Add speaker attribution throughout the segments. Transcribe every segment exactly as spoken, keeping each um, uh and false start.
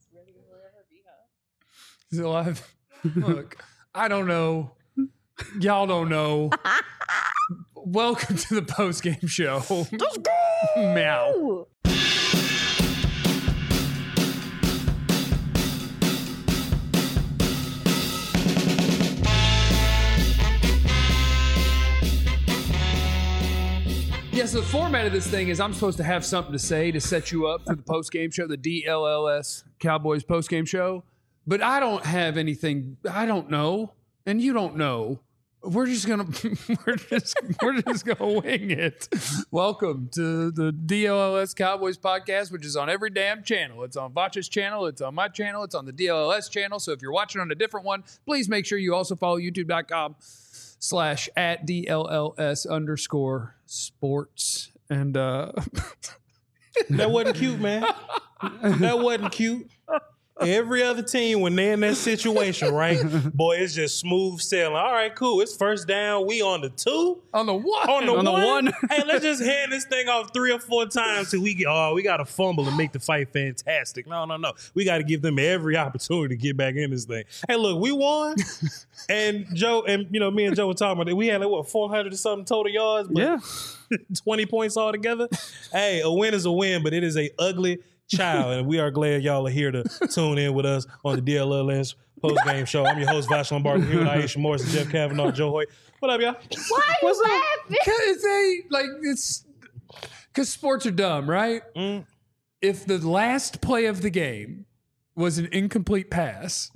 Speaker 1: ready to forever be, huh?
Speaker 2: He's alive. Look, I don't know. Y'all don't know. Welcome to the post game show.
Speaker 1: Let's go!
Speaker 2: Meow. Yeah, so the format of this thing is I'm supposed to have something to say to set you up for the post-game show, the D L L S Cowboys post-game show. But I don't have anything. I don't know, and you don't know. We're just gonna we're just we're just gonna wing it. Welcome to the D L L S Cowboys podcast, which is on every damn channel. It's on Vacha's channel, it's on my channel, it's on the D L L S channel. So if you're watching on a different one, please make sure you also follow youtube.com slash at DLLS underscore sports. And uh
Speaker 3: that wasn't cute, man. That wasn't cute. Every other team, when they're in that situation, right? Boy, it's just smooth sailing. All right, cool. It's first down. We on the two.
Speaker 2: On the one.
Speaker 3: On the,
Speaker 4: on
Speaker 3: one.
Speaker 4: the one.
Speaker 3: Hey, let's just hand this thing off three or four times till we get, oh, we got to fumble and make the fight fantastic. No, no, no. We got to give them every opportunity to get back in this thing. Hey, look, we won. And Joe, and you know, me and Joe were talking about it. We had like, what, four hundred or something total yards? But
Speaker 4: Yeah.
Speaker 3: twenty points altogether. Hey, a win is a win, but it is a ugly child, and we are glad y'all are here to tune in with us on the D L L S post-game show. I'm your host, Vash Lombardi, here with Aisha Morris and Jeff Kavanaugh, Joe Hoyt. What up, y'all?
Speaker 1: Why are you laughing?
Speaker 2: Because they, like, it's, because sports are dumb, right?
Speaker 3: Mm.
Speaker 2: If the last play of the game was an incomplete pass,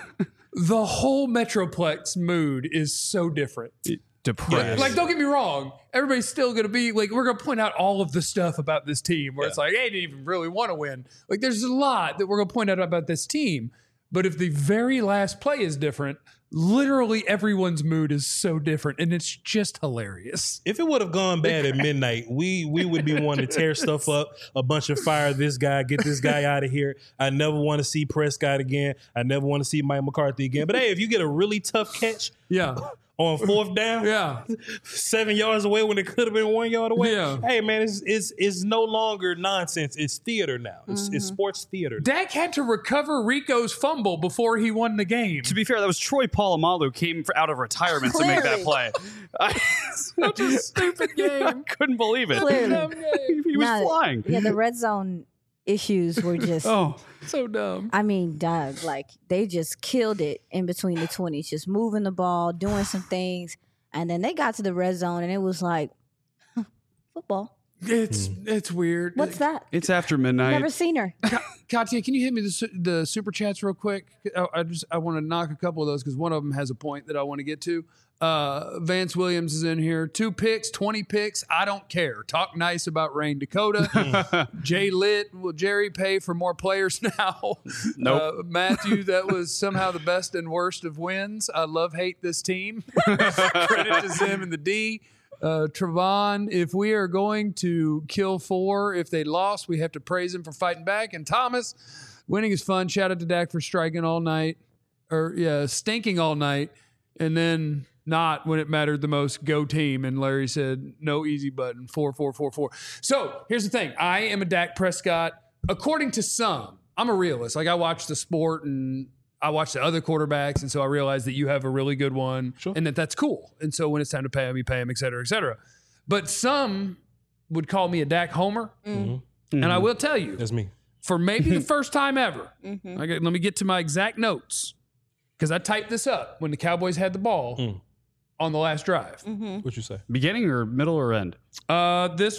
Speaker 2: the whole Metroplex mood is so different.
Speaker 4: Depressed.
Speaker 2: Like, don't get me wrong. Everybody's still going to be like, we're going to point out all of the stuff about this team where
Speaker 3: Yeah.
Speaker 2: it's like, hey, they didn't even really want to win. Like, there's a lot that we're going to point out about this team. But if the very last play is different, literally everyone's mood is so different. And it's just hilarious.
Speaker 3: If it would have gone bad at midnight, we we would be wanting to tear stuff up, a bunch of fire this guy, get this guy out of here. I never want to see Prescott again. I never want to see Mike McCarthy again. But hey, if you get a really tough catch
Speaker 2: Yeah.
Speaker 3: on fourth down,
Speaker 2: Yeah.
Speaker 3: seven yards away when it could have been one yard away.
Speaker 2: Yeah.
Speaker 3: Hey, man, it's, it's, it's no longer nonsense. It's theater now. It's, it's sports theater.
Speaker 2: Dak had to recover Rico's fumble before he won the game.
Speaker 4: To be fair, that was Troy Polamalu came for, out of retirement to make that play. I,
Speaker 2: Such a stupid
Speaker 4: I
Speaker 2: game.
Speaker 4: couldn't believe it.
Speaker 1: Clearly.
Speaker 4: He was
Speaker 1: Nah,
Speaker 4: flying.
Speaker 1: Yeah, the red zone issues were just,
Speaker 4: Oh,
Speaker 2: So dumb.
Speaker 1: I mean, Doug, like, they just killed it in between the twenties, just moving the ball, doing some things. And then they got to the red zone, and it was like, huh, football.
Speaker 2: It's it's weird.
Speaker 1: What's that?
Speaker 4: it's after midnight.
Speaker 1: Never seen her.
Speaker 2: Katya, can you hit me the, su- the super chats real quick? I, I just I want to knock a couple of those because one of them has a point that I want to get to. Uh, Vance Williams is in here. Two picks, twenty picks. I don't care. Talk nice about Rain Dakota. Jay Litt, will Jerry pay for more players now?
Speaker 4: Nope.
Speaker 2: Uh, Matthew, that was somehow the best and worst of wins. I love hate this team. Credit to Zim and the D. Uh, Trevon, if we are going to kill four, if they lost, we have to praise him for fighting back. And Thomas, winning is fun. Shout out to Dak for striking all night, or yeah, stinking all night, and then not when it mattered the most. Go team. And Larry said, no easy button. Four, four, four, four. So here's the thing. I am a Dak Prescott. According to some, I'm a realist. Like I watch the sport and I watch the other quarterbacks, and so I realize that you have a really good one,
Speaker 3: Sure.
Speaker 2: and that that's cool. And so when it's time to pay him, you pay him, et cetera, et cetera. But some would call me a Dak homer,
Speaker 1: Mm.
Speaker 2: and I will tell you,
Speaker 3: That's me.
Speaker 2: for maybe the first time ever,
Speaker 1: Mm-hmm.
Speaker 2: I got, let me get to my exact notes, because I typed this up when the Cowboys had the ball
Speaker 3: Mm.
Speaker 2: on the last drive.
Speaker 1: Mm-hmm.
Speaker 3: What you say?
Speaker 4: Beginning or middle or end?
Speaker 2: Uh, this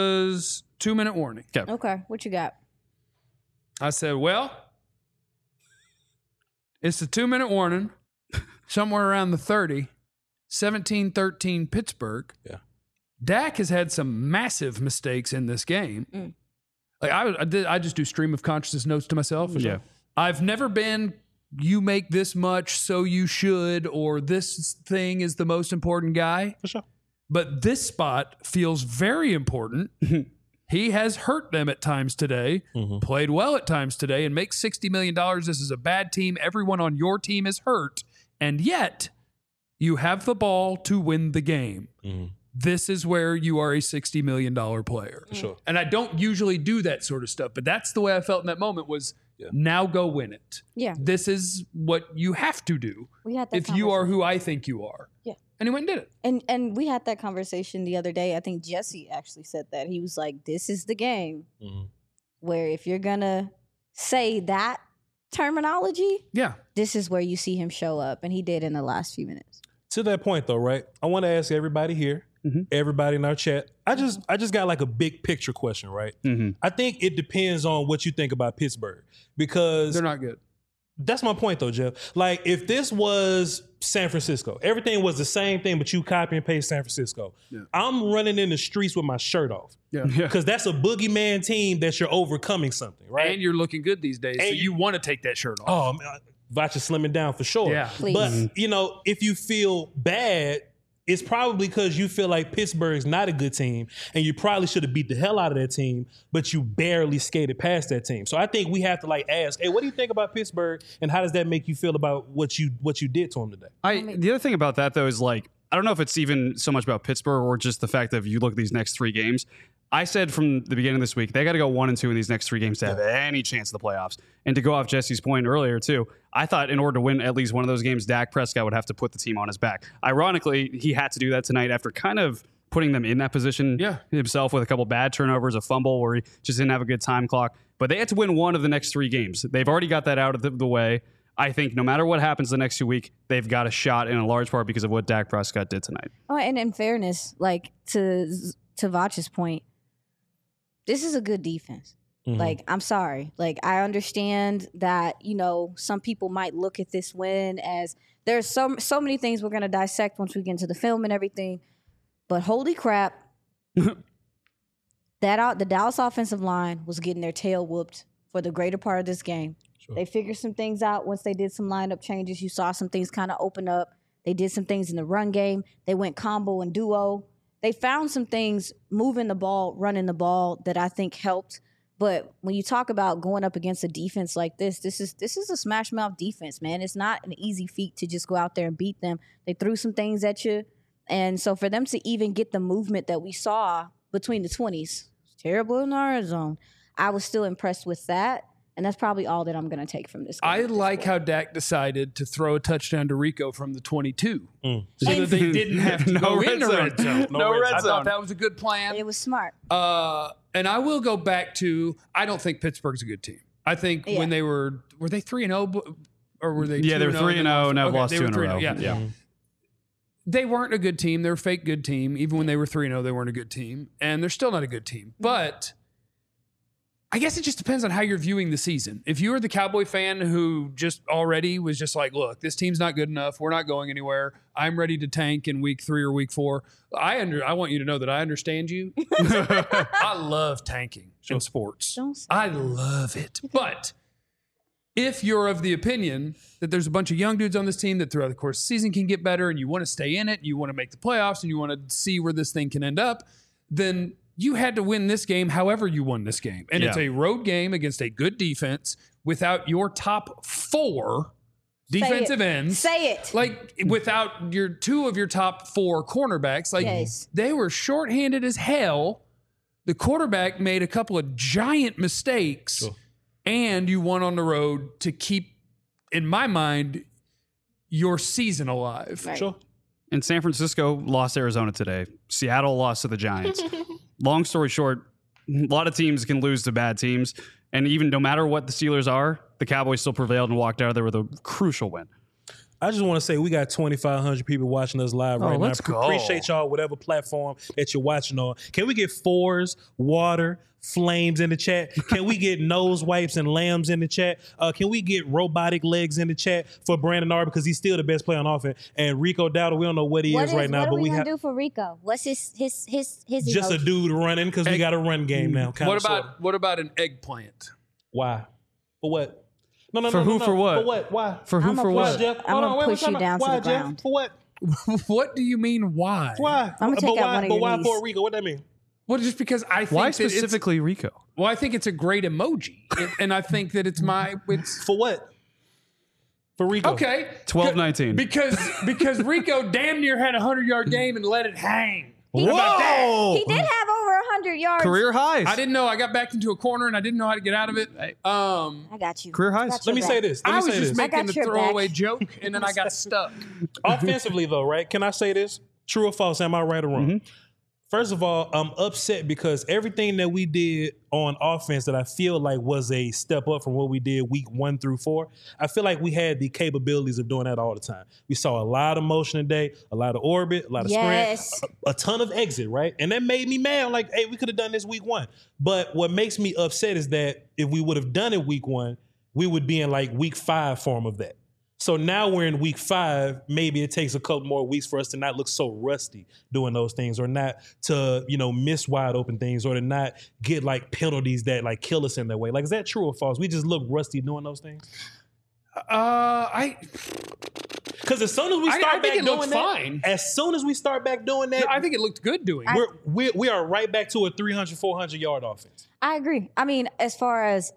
Speaker 2: was two-minute warning.
Speaker 1: Okay, what you got?
Speaker 2: I said, well, it's the two-minute warning, somewhere around the thirty, seventeen thirteen Pittsburgh.
Speaker 3: Yeah.
Speaker 2: Dak has had some massive mistakes in this game.
Speaker 1: Mm.
Speaker 2: Like I, I did, I just do stream of consciousness notes to myself.
Speaker 4: Yeah.
Speaker 2: I've never been, you make this much, so you should, or this thing is the most important guy.
Speaker 3: For sure.
Speaker 2: But this spot feels very important. He has hurt them at times today,
Speaker 3: Mhm.
Speaker 2: played well at times today, and makes sixty million dollars. This is a bad team. Everyone on your team is hurt. And yet, you have the ball to win the game.
Speaker 3: Mhm.
Speaker 2: This is where you are a sixty million dollars player.
Speaker 3: For sure.
Speaker 2: And I don't usually do that sort of stuff, but that's the way I felt in that moment was
Speaker 3: Yeah.
Speaker 2: Now go win it.
Speaker 1: Yeah.
Speaker 2: This is what you have to do
Speaker 1: We had that
Speaker 2: if you are
Speaker 1: conversation.
Speaker 2: who I think you are.
Speaker 1: Yeah.
Speaker 2: And he went and did it.
Speaker 1: And and we had that conversation the other day. I think Jesse actually said that. He was like, this is the game
Speaker 3: Mm-hmm.
Speaker 1: where if you're gonna say that terminology,
Speaker 2: Yeah.
Speaker 1: this is where you see him show up. And he did in the last few minutes.
Speaker 3: To that point, though, right? I want to ask everybody here,
Speaker 4: Mhm.
Speaker 3: everybody in our chat. I just, I just got like a big picture question, right?
Speaker 4: Mhm.
Speaker 3: I think it depends on what you think about Pittsburgh because
Speaker 2: They're not good.
Speaker 3: that's my point, though, Jeff. Like, if this was San Francisco, everything was the same thing, but you copy and paste San Francisco.
Speaker 2: Yeah.
Speaker 3: I'm running in the streets with my shirt off
Speaker 2: Yeah.
Speaker 3: because that's a boogeyman team that you're overcoming something, right?
Speaker 2: And you're looking good these days. So
Speaker 3: And
Speaker 2: you want to take that shirt off.
Speaker 3: Oh, man, Vach is slimming down for sure.
Speaker 2: Yeah.
Speaker 1: Please.
Speaker 3: But, you know, if you feel bad, it's probably because you feel like Pittsburgh's not a good team and you probably should have beat the hell out of that team, but you barely skated past that team. So I think we have to like ask, hey, what do you think about Pittsburgh and how does that make you feel about what you what you did to them today?
Speaker 4: I the other thing about that though is like I don't know if it's even so much about Pittsburgh or just the fact that if you look at these next three games. I said from the beginning of this week they got to go one and two in these next three games to have any chance of the playoffs. And to go off Jesse's point earlier too, I thought in order to win at least one of those games, Dak Prescott would have to put the team on his back. Ironically, he had to do that tonight after kind of putting them in that position
Speaker 2: Yeah.
Speaker 4: himself with a couple bad turnovers, a fumble where he just didn't have a good time clock. But they had to win one of the next three games. They've already got that out of the, the way. I think no matter what happens the next two weeks, they've got a shot in a large part because of what Dak Prescott did tonight.
Speaker 1: Oh, and in fairness, like to to Vach's point, this is a good defense.
Speaker 3: Mhm.
Speaker 1: Like, I'm sorry. Like, I understand that, you know, some people might look at this win as there's so so many things we're gonna dissect once we get into the film and everything. But holy crap, that out the Dallas offensive line was getting their tail whooped for the greater part of this game.
Speaker 3: Sure.
Speaker 1: They figured some things out once they did some lineup changes. You saw some things kind of open up. They did some things in the run game. They went combo and duo. They found some things moving the ball, running the ball that I think helped. But when you talk about going up against a defense like this, this is this is a smash mouth defense, man. It's not an easy feat to just go out there and beat them. They threw some things at you. And so for them to even get the movement that we saw between the twenties, terrible in our zone, I was still impressed with that. And that's probably all that I'm going to take from this game.
Speaker 2: I
Speaker 1: at this
Speaker 2: like
Speaker 1: point.
Speaker 2: how Dak decided to throw a touchdown to Rico from the twenty-two
Speaker 3: Mm.
Speaker 2: so
Speaker 1: And-
Speaker 2: that they didn't have to
Speaker 4: No
Speaker 2: go
Speaker 4: red
Speaker 2: in the
Speaker 4: zone.
Speaker 2: red zone.
Speaker 4: No red
Speaker 2: I
Speaker 4: zone.
Speaker 2: thought that was a good plan.
Speaker 1: It was smart.
Speaker 2: Uh, and I will go back to I don't think Pittsburgh's a good team. I think
Speaker 1: Yeah.
Speaker 2: when they were were they three and zero or were they
Speaker 4: Yeah,
Speaker 2: two
Speaker 4: they were
Speaker 2: and oh
Speaker 4: three and zero, and have
Speaker 2: Okay,
Speaker 4: lost
Speaker 2: they
Speaker 4: two
Speaker 2: were
Speaker 4: in a
Speaker 2: three
Speaker 4: row.
Speaker 2: and oh, Yeah.
Speaker 3: Mhm.
Speaker 2: They weren't a good team. They were a fake good team. Even when they were three and zero, they weren't a good team, and they're still not a good team. But I guess it just depends on how you're viewing the season. If you are the Cowboy fan who just already was just like, look, this team's not good enough. We're not going anywhere. I'm ready to tank in week three or week four. I under I want you to know that I understand you. I love tanking in sports.
Speaker 1: Don't say
Speaker 2: I love it. But if you're of the opinion that there's a bunch of young dudes on this team that throughout the course of the season can get better and you want to stay in it, and you want to make the playoffs and you want to see where this thing can end up, then you had to win this game however you won this game. And it's
Speaker 4: Yeah.
Speaker 2: a road game against a good defense without your top four
Speaker 1: Say
Speaker 2: defensive
Speaker 1: it.
Speaker 2: ends.
Speaker 1: Say it.
Speaker 2: Like without your two of your top four cornerbacks. Like
Speaker 1: Yes.
Speaker 2: they were shorthanded as hell. The quarterback made a couple of giant mistakes.
Speaker 3: Sure.
Speaker 2: And you won on the road to keep, in my mind, your season alive.
Speaker 1: Right.
Speaker 3: Sure.
Speaker 4: And San Francisco lost Arizona today. Seattle lost to the Giants. Long story short, a lot of teams can lose to bad teams. And even no matter what the Steelers are, the Cowboys still prevailed and walked out of there with a crucial win.
Speaker 3: I just want to say we got twenty-five hundred people watching us live
Speaker 2: Oh,
Speaker 3: right
Speaker 2: let's
Speaker 3: now.
Speaker 2: go.
Speaker 3: Appreciate y'all, whatever platform that you're watching on. Can we get fours, water, flames in the chat? Can we get nose wipes and lambs in the chat? Uh, can we get robotic legs in the chat for Brandon Arr because he's still the best player on offense? And Rico Dowdle, we don't know what he
Speaker 1: What
Speaker 3: is
Speaker 1: is
Speaker 3: right now,
Speaker 1: what are
Speaker 3: but
Speaker 1: we
Speaker 3: we
Speaker 1: gonna
Speaker 3: have
Speaker 1: do for Rico? What's his his his his
Speaker 3: just a
Speaker 1: emoji?
Speaker 3: dude running because we
Speaker 2: Egg-
Speaker 3: got a run game now. Kinda,
Speaker 2: What about
Speaker 3: sorta.
Speaker 2: what about an eggplant?
Speaker 3: Why? For what? No, no,
Speaker 4: For
Speaker 3: no, no,
Speaker 4: who,
Speaker 3: no.
Speaker 4: for what?
Speaker 3: For what? Why?
Speaker 4: For who,
Speaker 1: I'ma
Speaker 4: for
Speaker 1: push
Speaker 3: Why,
Speaker 4: what?
Speaker 3: Jeff?
Speaker 1: I'm
Speaker 3: Hold
Speaker 1: gonna
Speaker 3: on, wait,
Speaker 1: push
Speaker 3: wait,
Speaker 1: you
Speaker 3: time
Speaker 1: down
Speaker 3: out.
Speaker 1: to
Speaker 3: Why,
Speaker 1: the
Speaker 3: Jeff?
Speaker 1: ground.
Speaker 3: For what?
Speaker 2: What do you mean why?
Speaker 3: Why?
Speaker 1: I'ma
Speaker 3: but
Speaker 1: take out
Speaker 3: why,
Speaker 1: one of
Speaker 3: but
Speaker 1: your
Speaker 3: why
Speaker 1: knees.
Speaker 3: Puerto Rico? What that mean?
Speaker 2: Well, just because I think
Speaker 4: Why
Speaker 2: that it's-
Speaker 4: specifically Rico?
Speaker 2: Well, I think it's a great emoji, and, and I think that it's my it's
Speaker 3: For what? For Rico.
Speaker 2: okay.
Speaker 4: twelve nineteen.
Speaker 2: Because because Rico damn near had a hundred yard game and let it hang.
Speaker 1: He,
Speaker 3: How about that?
Speaker 1: he did have over one hundred yards.
Speaker 4: Career highs.
Speaker 2: I didn't know. I got backed into a corner and I didn't know how to get out of it. Um,
Speaker 1: I got you.
Speaker 4: Career highs.
Speaker 1: Got
Speaker 3: Let me
Speaker 1: your
Speaker 3: say
Speaker 1: back.
Speaker 3: this. Let me
Speaker 2: I was
Speaker 3: say
Speaker 2: just
Speaker 3: this.
Speaker 2: making
Speaker 1: got
Speaker 2: the
Speaker 1: your
Speaker 2: throwaway
Speaker 1: back.
Speaker 2: joke and then I got stuck.
Speaker 3: Offensively, though, right? Can I say this? True or false? Am I right or wrong?
Speaker 4: Mm-hmm.
Speaker 3: First of all, I'm upset because everything that we did on offense that I feel like was a step up from what we did week one through four, I feel like we had the capabilities of doing that all the time. We saw a lot of motion today, a lot of orbit, a lot of
Speaker 1: Yes.
Speaker 3: sprint, a, a ton of exit, right? And that made me mad. I'm like, hey, we could have done this week one. But what makes me upset is that if we would have done it week one, we would be in like week five form of that. So now we're in week five. Maybe it takes a couple more weeks for us to not look so rusty doing those things, or not to, you know, miss wide open things, or to not get like penalties that like kill us in that way. Like, is that true or false? We just look rusty doing those things.
Speaker 2: Uh, I
Speaker 3: Because as soon as we
Speaker 2: I-
Speaker 3: start
Speaker 2: I think
Speaker 3: back
Speaker 2: it looks
Speaker 3: doing that,
Speaker 2: fine.
Speaker 3: as soon as we start back doing that,
Speaker 2: I think it looked good doing it.
Speaker 3: we're, we we are right back to a three hundred, four hundred yard offense.
Speaker 1: I agree. I mean, as far as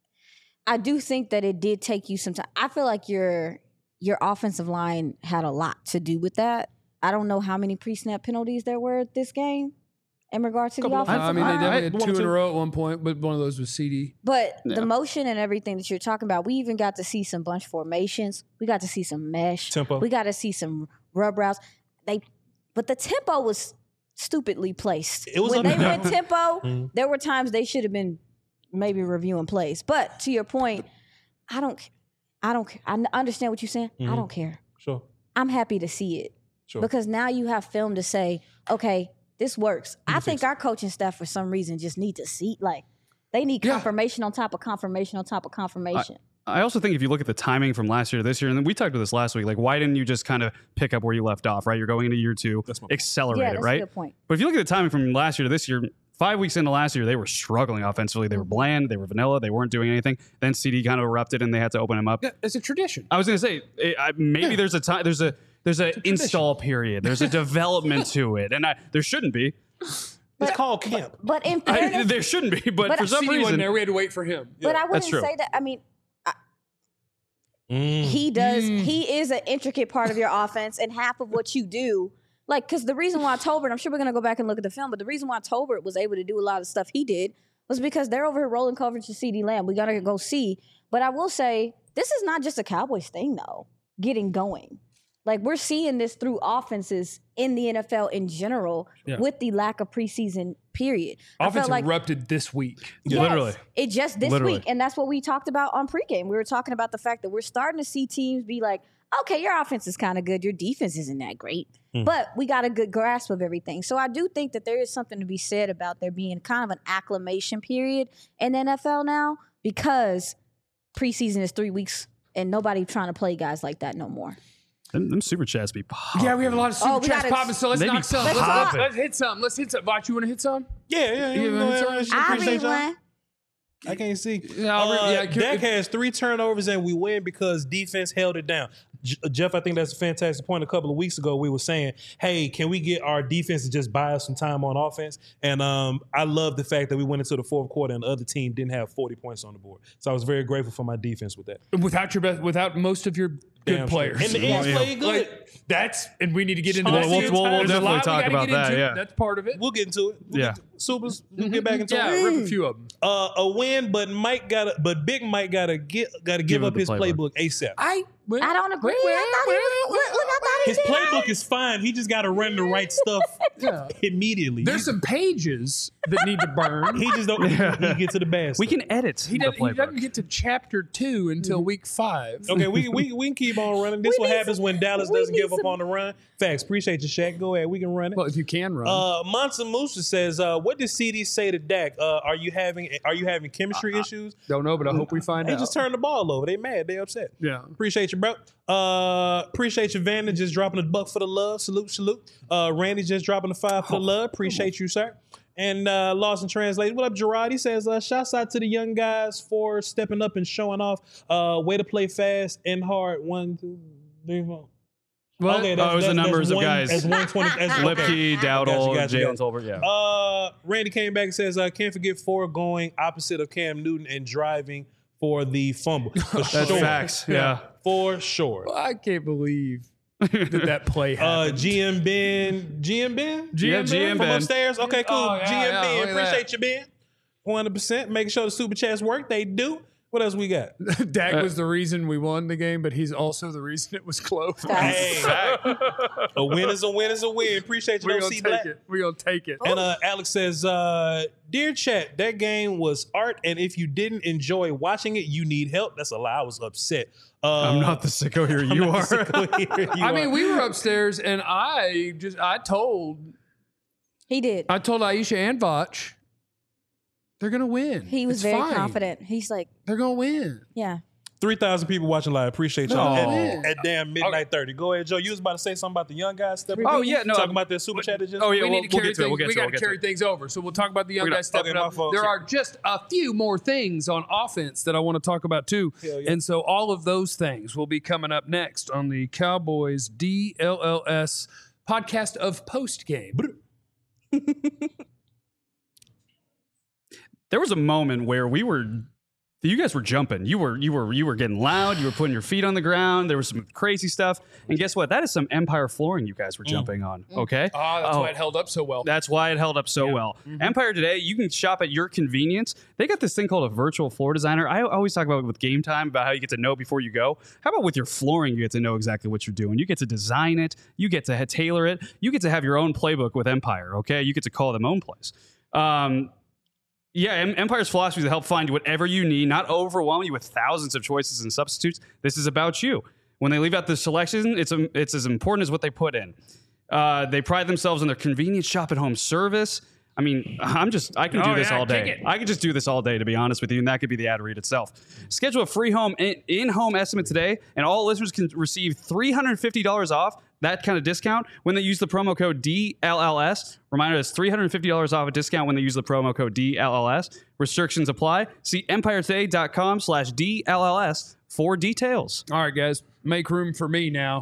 Speaker 1: I do think that it did take you some time. I feel like your your offensive line had a lot to do with that. I don't know how many pre-snap penalties there were this game in regards to the
Speaker 3: Couple of-
Speaker 1: offensive
Speaker 2: I mean, they
Speaker 1: line.
Speaker 2: definitely had
Speaker 3: One or
Speaker 2: two in
Speaker 3: two.
Speaker 2: a row at one point, but one of those was C D.
Speaker 1: But
Speaker 4: Yeah.
Speaker 1: the motion and everything that you're talking about, we even got to see some bunch formations. We got to see some mesh.
Speaker 3: Tempo.
Speaker 1: We got to see some rub routes. They, but the tempo was stupidly placed.
Speaker 3: It was
Speaker 1: when
Speaker 3: up
Speaker 1: they
Speaker 3: and
Speaker 1: went
Speaker 3: down.
Speaker 1: tempo.
Speaker 3: Mhm.
Speaker 1: There were times they should have been maybe reviewing plays. But to your point, I don't. I don't. I n- understand what you're saying. I
Speaker 3: Mhm.
Speaker 1: don't care.
Speaker 3: Sure.
Speaker 1: I'm happy to see it
Speaker 3: Sure.
Speaker 1: because now you have film to say, okay, this works. I
Speaker 3: can
Speaker 1: think
Speaker 3: fix it.
Speaker 1: our coaching staff, for some reason, just need to see like they need
Speaker 2: Yeah.
Speaker 1: confirmation on top of confirmation on top of confirmation.
Speaker 4: I also think if you look at the timing from last year to this year, and then we talked about this last week, like why didn't you just kind of pick up where you left off, right? You're going into year two,
Speaker 3: That's my point.
Speaker 4: accelerate
Speaker 1: yeah,
Speaker 4: it,
Speaker 1: that's
Speaker 4: right?
Speaker 1: a good point.
Speaker 4: But if you look at the timing from last year to this year, five weeks into last year, they were struggling offensively. They were bland, they were vanilla, they weren't doing anything. Then C D kind of erupted and they had to open him up.
Speaker 2: Yeah, it's a tradition.
Speaker 4: I was going to say it, I, maybe
Speaker 2: Yeah.
Speaker 4: there's a time, there's a there's an install period, there's a development to it, and I, there shouldn't be.
Speaker 3: It's called camp.
Speaker 1: But in
Speaker 4: I,
Speaker 1: fairness,
Speaker 4: there shouldn't be, but,
Speaker 1: But
Speaker 4: for some
Speaker 2: C D wasn't
Speaker 4: reason,
Speaker 2: there. We had to wait for him.
Speaker 1: but I wouldn't
Speaker 4: true.
Speaker 1: say that. I mean,
Speaker 3: Mm.
Speaker 1: he does.
Speaker 2: Mm.
Speaker 1: He is an intricate part of your offense, and half of what you do. Like, because the reason why Tolbert, I'm sure we're gonna go back and look at the film, but the reason why Tolbert was able to do a lot of stuff he did was because they're over here rolling coverage to CeeDee Lamb. We gotta go see. But I will say, this is not just a Cowboys thing, though. Getting going, like we're seeing this through offenses in the N F L in general,
Speaker 2: Yeah.
Speaker 1: with the lack of preseason period. I
Speaker 2: Offense
Speaker 1: felt like
Speaker 2: erupted this week.
Speaker 1: Yes,
Speaker 4: Literally.
Speaker 1: it just this
Speaker 4: Literally.
Speaker 1: week, and that's what we talked about on pregame. We were talking about the fact that we're starting to see teams be like, okay, your offense is kind of good, your defense isn't that great,
Speaker 3: Mm.
Speaker 1: but we got a good grasp of everything. So I do think that there is something to be said about there being kind of an acclimation period in the N F L now, because preseason is three weeks and nobody trying to play guys like that no more.
Speaker 4: them, them super chats be popping.
Speaker 2: Yeah, we have a lot of super
Speaker 1: Oh, we
Speaker 2: chats
Speaker 1: gotta-
Speaker 2: popping, so let's
Speaker 4: They be
Speaker 2: knock some.
Speaker 1: Let's
Speaker 2: Let's,
Speaker 1: talk.
Speaker 2: let's, let's hit some. Let's hit some. Vach, you want to hit some?
Speaker 3: Yeah, yeah, yeah.
Speaker 2: You
Speaker 3: Go
Speaker 2: want
Speaker 3: ahead,
Speaker 2: to-
Speaker 3: Rich.
Speaker 1: I
Speaker 3: Appreciate
Speaker 1: read
Speaker 3: y'all.
Speaker 1: one.
Speaker 3: I can't see.
Speaker 2: Yeah, I'll re-
Speaker 3: Uh,
Speaker 2: yeah, can-
Speaker 3: Dak has three turnovers and we win because defense held it down. J- Jeff, I think that's a fantastic point. A couple of weeks ago, we were saying, "Hey, can we get our defense to just buy us some time on offense?" And um, I love the fact that we went into the fourth quarter and the other team didn't have forty points on the board. So I was very grateful for my defense with that.
Speaker 2: Without your best, without most of your good
Speaker 3: Damn straight.
Speaker 2: players,
Speaker 3: And the ends
Speaker 4: Yeah.
Speaker 3: played good.
Speaker 2: Like, that's and we need to get into
Speaker 3: We'll-
Speaker 2: that.
Speaker 3: we'll-
Speaker 2: too.
Speaker 3: we'll- we'll
Speaker 2: There's a
Speaker 4: definitely
Speaker 2: lot we
Speaker 4: talk
Speaker 2: gotta
Speaker 4: about
Speaker 2: get
Speaker 4: that,
Speaker 2: into.
Speaker 4: yeah.
Speaker 2: That's part of it.
Speaker 3: We'll get into it. We'll
Speaker 4: Yeah.
Speaker 3: get to- Supers, we'll get back into
Speaker 2: Yeah,
Speaker 3: it.
Speaker 2: rip a few of them.
Speaker 3: Uh, a win, but Mike got to but Big Mike got to get got to give,
Speaker 4: Give
Speaker 3: up
Speaker 4: up the
Speaker 3: his
Speaker 4: playbook.
Speaker 3: playbook ASAP.
Speaker 2: I
Speaker 1: I don't agree. I thought he was. Look, look, I thought he
Speaker 3: His
Speaker 1: did.
Speaker 3: playbook is fine. He just got to run the right stuff
Speaker 2: Yeah.
Speaker 3: immediately.
Speaker 2: There's some pages that need to burn.
Speaker 3: He just don't he get to the bad
Speaker 4: We
Speaker 3: stuff.
Speaker 4: can edit
Speaker 2: He
Speaker 4: the
Speaker 2: doesn't, he
Speaker 4: playbook.
Speaker 2: doesn't get to chapter two until week five.
Speaker 3: Okay, we, we we can keep on running. This
Speaker 1: We
Speaker 3: what
Speaker 1: need
Speaker 3: happens
Speaker 1: some-
Speaker 3: when Dallas
Speaker 1: we
Speaker 3: doesn't
Speaker 1: need
Speaker 3: give up
Speaker 1: some-
Speaker 3: on the run. Facts. Appreciate you, Shaq. Go ahead. We can run it.
Speaker 2: Well, if you can run.
Speaker 3: Uh, Monsa Musa says, uh, "What did C D say to Dak? Uh, are you having Are you having chemistry issues?
Speaker 2: Don't know, but I hope we find
Speaker 3: They
Speaker 2: out.
Speaker 3: just turned the ball over. They mad. They upset.
Speaker 2: Yeah.
Speaker 3: Appreciate you, bro. Uh, appreciate you, Vander, just dropping a buck for the love. Salute, salute. Uh, Randy just dropping a five for the love. Appreciate you, sir. And uh, Lost in Translation. What up, Gerard? He says, uh, shouts out to the young guys for stepping up and showing off. Uh, way to play fast and hard. One, two, three, four.
Speaker 2: What?
Speaker 3: Okay,
Speaker 4: Oh, it was the numbers of
Speaker 3: one,
Speaker 4: guys.
Speaker 3: That's one twenty. That's, okay.
Speaker 4: Lipke, Dowdle,
Speaker 3: Gotcha, gotcha,
Speaker 4: Jalen
Speaker 3: gotcha.
Speaker 4: Tolbert. Yeah.
Speaker 3: Uh, Randy came back and says, uh, can't forget Ford going opposite of Cam Newton and driving for the fumble. For
Speaker 4: That's
Speaker 3: sure.
Speaker 4: facts. Yeah.
Speaker 3: For sure.
Speaker 2: I can't believe did that play
Speaker 3: Uh,
Speaker 2: happen.
Speaker 3: G M Ben, G M Ben,
Speaker 4: Yeah, G M
Speaker 3: from
Speaker 4: Ben.
Speaker 3: upstairs. Okay, cool.
Speaker 2: Oh, yeah,
Speaker 3: G M
Speaker 2: yeah,
Speaker 3: Ben,
Speaker 2: look at
Speaker 3: appreciate
Speaker 2: that.
Speaker 3: you, Ben. one hundred percent. Making sure the super chats work. They do. What else we got?
Speaker 2: Dak
Speaker 4: Uh,
Speaker 2: was the reason we won the game, but he's also the reason it was close.
Speaker 3: Hey, a win is a win is a win. Appreciate you,
Speaker 2: We're
Speaker 3: don't
Speaker 2: gonna
Speaker 3: see
Speaker 2: take
Speaker 3: black.
Speaker 2: it. We're gonna take it.
Speaker 3: And uh, Alex says, uh, "Dear chat, that game was art, and if you didn't enjoy watching it, you need help." That's a lie. I was upset. Uh,
Speaker 4: I'm not the sicko here.
Speaker 3: I'm
Speaker 4: You
Speaker 3: not
Speaker 4: are.
Speaker 3: the sicko here. You
Speaker 2: I mean,
Speaker 3: are.
Speaker 2: we were upstairs, and I just I told
Speaker 1: He did.
Speaker 2: I told Aisha and Vach they're gonna win.
Speaker 1: He was
Speaker 2: It's
Speaker 1: very
Speaker 2: fine.
Speaker 1: confident. He's like,
Speaker 2: They're gonna win.
Speaker 1: yeah.
Speaker 3: three thousand people watching live. Appreciate y'all
Speaker 2: No.
Speaker 3: at, at damn midnight thirty. Go ahead, Joe. You was about to say something about the young guys stepping
Speaker 4: Oh
Speaker 3: up?
Speaker 4: yeah, no.
Speaker 3: Talking about their super chat. Just
Speaker 4: Oh yeah,
Speaker 2: we
Speaker 4: we'll,
Speaker 2: need to
Speaker 4: we'll
Speaker 2: carry
Speaker 4: get to it.
Speaker 2: things.
Speaker 4: We'll get
Speaker 2: we
Speaker 4: to it.
Speaker 2: got
Speaker 4: We'll
Speaker 2: to
Speaker 4: get to
Speaker 2: carry
Speaker 4: it.
Speaker 2: things over. So we'll talk about the young
Speaker 4: We're gonna-
Speaker 2: guys stepping
Speaker 3: okay, my
Speaker 2: up.
Speaker 3: fault.
Speaker 2: There are just a few more things on offense that I want to talk about too,
Speaker 3: Hell yeah.
Speaker 2: and so all of those things will be coming up next on the Cowboys D L L S podcast of post game.
Speaker 4: There was a moment where we were, you guys were jumping. You were, you were, you were getting loud. You were putting your feet on the ground. There was some crazy stuff. And guess what? That is some Empire flooring you guys were jumping on. Okay.
Speaker 2: Ah, that's
Speaker 4: Oh.
Speaker 2: why it held up so well.
Speaker 4: That's why it held up so well. Empire Today, you can shop at your convenience. They got this thing called a virtual floor designer. I always talk about it with Game Time, about how you get to know before you go. How about with your flooring, you get to know exactly what you're doing. You get to design it. You get to ha- tailor it. You get to have your own playbook with Empire, okay? You get to call them own plays. Um, yeah, Em- Empire's philosophy is to help find whatever you need, not overwhelm you with thousands of choices and substitutes. This is about you. When they leave out the selection, it's, um, it's as important as what they put in. Uh, they pride themselves on their convenient shop at home service. I mean, I'm just, I can do
Speaker 2: Oh,
Speaker 4: this
Speaker 2: yeah,
Speaker 4: all
Speaker 2: kick
Speaker 4: day.
Speaker 2: it.
Speaker 4: I could just do this all day, to be honest with you, and that could be the ad read itself. Schedule a free home in- in-home estimate today, and all listeners can receive three hundred fifty dollars off that kind of discount when they use the promo code D L L S. Reminder, it's three hundred fifty dollars off a discount when they use the promo code D L L S. Restrictions apply. See empiretoday.com slash DLLS for details.
Speaker 2: All right, guys, make room for me now.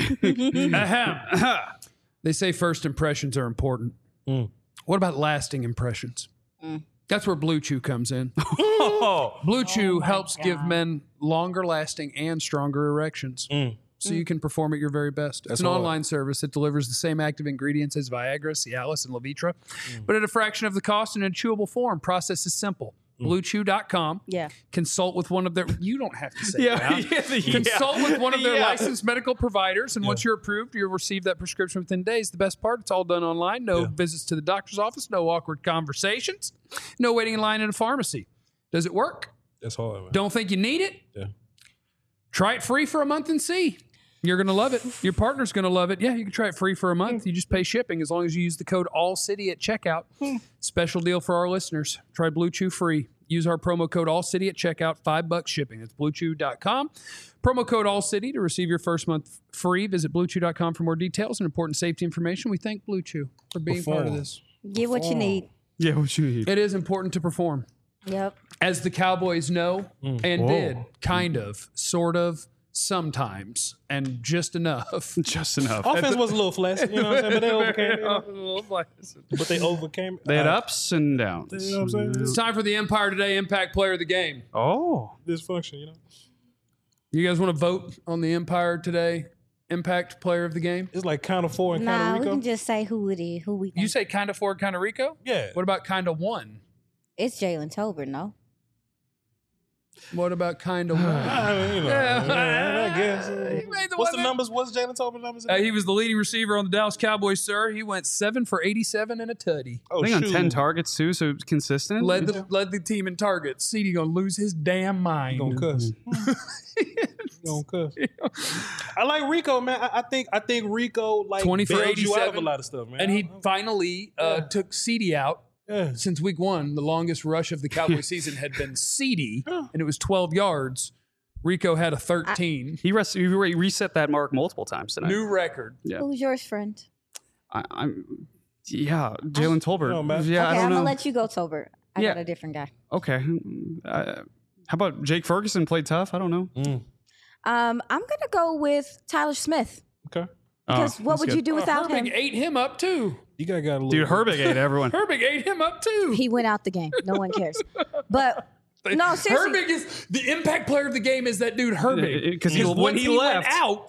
Speaker 2: Ahem. They say first impressions are important. What about lasting impressions? That's where Blue Chew comes in.
Speaker 3: Oh,
Speaker 2: Blue Chew helps give men longer lasting and stronger erections. So you can perform at your very best. It's an
Speaker 3: hard.
Speaker 2: online service that delivers the same active ingredients as Viagra, Cialis, and Levitra, but at a fraction of the cost and in a chewable form. Process is simple. blue chew dot com.
Speaker 1: Yeah.
Speaker 2: Consult with one of their. You don't have to say
Speaker 4: Yeah,
Speaker 2: that.
Speaker 4: yeah, the-
Speaker 2: Consult with one of their
Speaker 4: Yeah.
Speaker 2: licensed medical providers, and once you're approved, you'll receive that prescription within days. The best part, it's all done online. No
Speaker 3: Yeah.
Speaker 2: visits to the doctor's office, no awkward conversations, no waiting in line in a pharmacy. Does it work?
Speaker 3: that's hard, man.
Speaker 2: Don't think you need it?
Speaker 3: Yeah.
Speaker 2: Try it free for a month and see. You're going to love it. Your partner's going to love it. Yeah, you can try it free for a month. You just pay shipping as long as you use the code ALLCITY at checkout. Special deal for our listeners. Try Blue Chew free. Use our promo code ALLCITY at checkout. Five bucks shipping. That's blue chew dot com. Promo code ALLCITY to receive your first month free. Visit blue chew dot com for more details and important safety information. We thank Blue Chew for being part of
Speaker 3: Perform.
Speaker 2: this.
Speaker 1: Get what you need.
Speaker 4: Yeah, what you need.
Speaker 2: It is important to perform.
Speaker 1: Yep.
Speaker 2: As the Cowboys know and
Speaker 3: Whoa.
Speaker 2: did, kind of, sort of, sometimes, and just enough.
Speaker 4: Just enough.
Speaker 3: Offense was a little flaccid, you know what I'm saying? But they overcame it. you know? But they overcame it.
Speaker 4: They had
Speaker 3: Uh,
Speaker 4: ups and downs.
Speaker 3: You know what I'm saying?
Speaker 2: It's time for the Empire Today Impact Player of the Game.
Speaker 4: Oh.
Speaker 3: Dysfunction, you know?
Speaker 2: You guys want to vote on the Empire Today Impact Player of the Game?
Speaker 3: It's like kind of four and kind
Speaker 1: Nah,
Speaker 3: of
Speaker 1: we
Speaker 3: Rico.
Speaker 1: can just say who it is, who we think.
Speaker 2: You say kind of Ford, kind of Rico?
Speaker 3: Yeah.
Speaker 2: What about kind of one?
Speaker 1: It's Jalen Tolbert, no?
Speaker 2: What about kind of one?
Speaker 3: I mean, you know,
Speaker 2: Yeah.
Speaker 3: I guess.
Speaker 2: He made the
Speaker 3: What's
Speaker 2: one
Speaker 3: the
Speaker 2: that-
Speaker 3: numbers? What's Jalen Tolbert numbers?
Speaker 2: Uh, he was the leading receiver on the Dallas Cowboys, sir. He went seven for eighty-seven and a tutty.
Speaker 3: oh,
Speaker 4: I think on
Speaker 3: shoot.
Speaker 4: ten targets too, so it's consistent.
Speaker 2: Led the led the team in targets. C D gonna lose his damn mind.
Speaker 3: Gonna cuss. Gonna cuss. I like Rico, man. I, I think I think Rico like
Speaker 2: twenty for
Speaker 3: bailed you out of
Speaker 2: eighty-seven.
Speaker 3: a lot of stuff, man.
Speaker 2: And he
Speaker 3: I-
Speaker 2: finally uh,
Speaker 3: Yeah.
Speaker 2: took C D out.
Speaker 3: yeah.
Speaker 2: Since week one, the longest rush of the Cowboy season had been C D, and it was twelve yards. Rico had a thirteen.
Speaker 4: He, res- he re- reset that mark multiple times tonight.
Speaker 2: New record.
Speaker 4: Yeah.
Speaker 1: Who's yours, friend?
Speaker 4: I, I'm, yeah, Jalen Tolbert.
Speaker 3: No, man.
Speaker 4: yeah,
Speaker 1: okay,
Speaker 4: I don't
Speaker 1: I'm
Speaker 4: know.
Speaker 1: gonna let you go, Tolbert. I
Speaker 4: Yeah.
Speaker 1: got a different guy.
Speaker 4: okay. Uh, how about Jake Ferguson played tough? I don't know.
Speaker 3: Mm.
Speaker 1: Um, I'm gonna go with Tyler Smith
Speaker 3: Okay.
Speaker 1: because
Speaker 4: Oh,
Speaker 1: what
Speaker 4: that's
Speaker 1: would
Speaker 4: good.
Speaker 1: you do without
Speaker 2: Herbig
Speaker 1: him?
Speaker 2: ate him up too.
Speaker 3: You got got a little
Speaker 4: Dude, Herbig ate everyone.
Speaker 2: Herbig ate him up too.
Speaker 1: He went out the game. No one cares. But no, seriously.
Speaker 2: Herbig is the impact player of the game. Is that dude Herbig?
Speaker 4: Because he- when
Speaker 2: once
Speaker 4: he
Speaker 2: went
Speaker 4: left-
Speaker 2: out,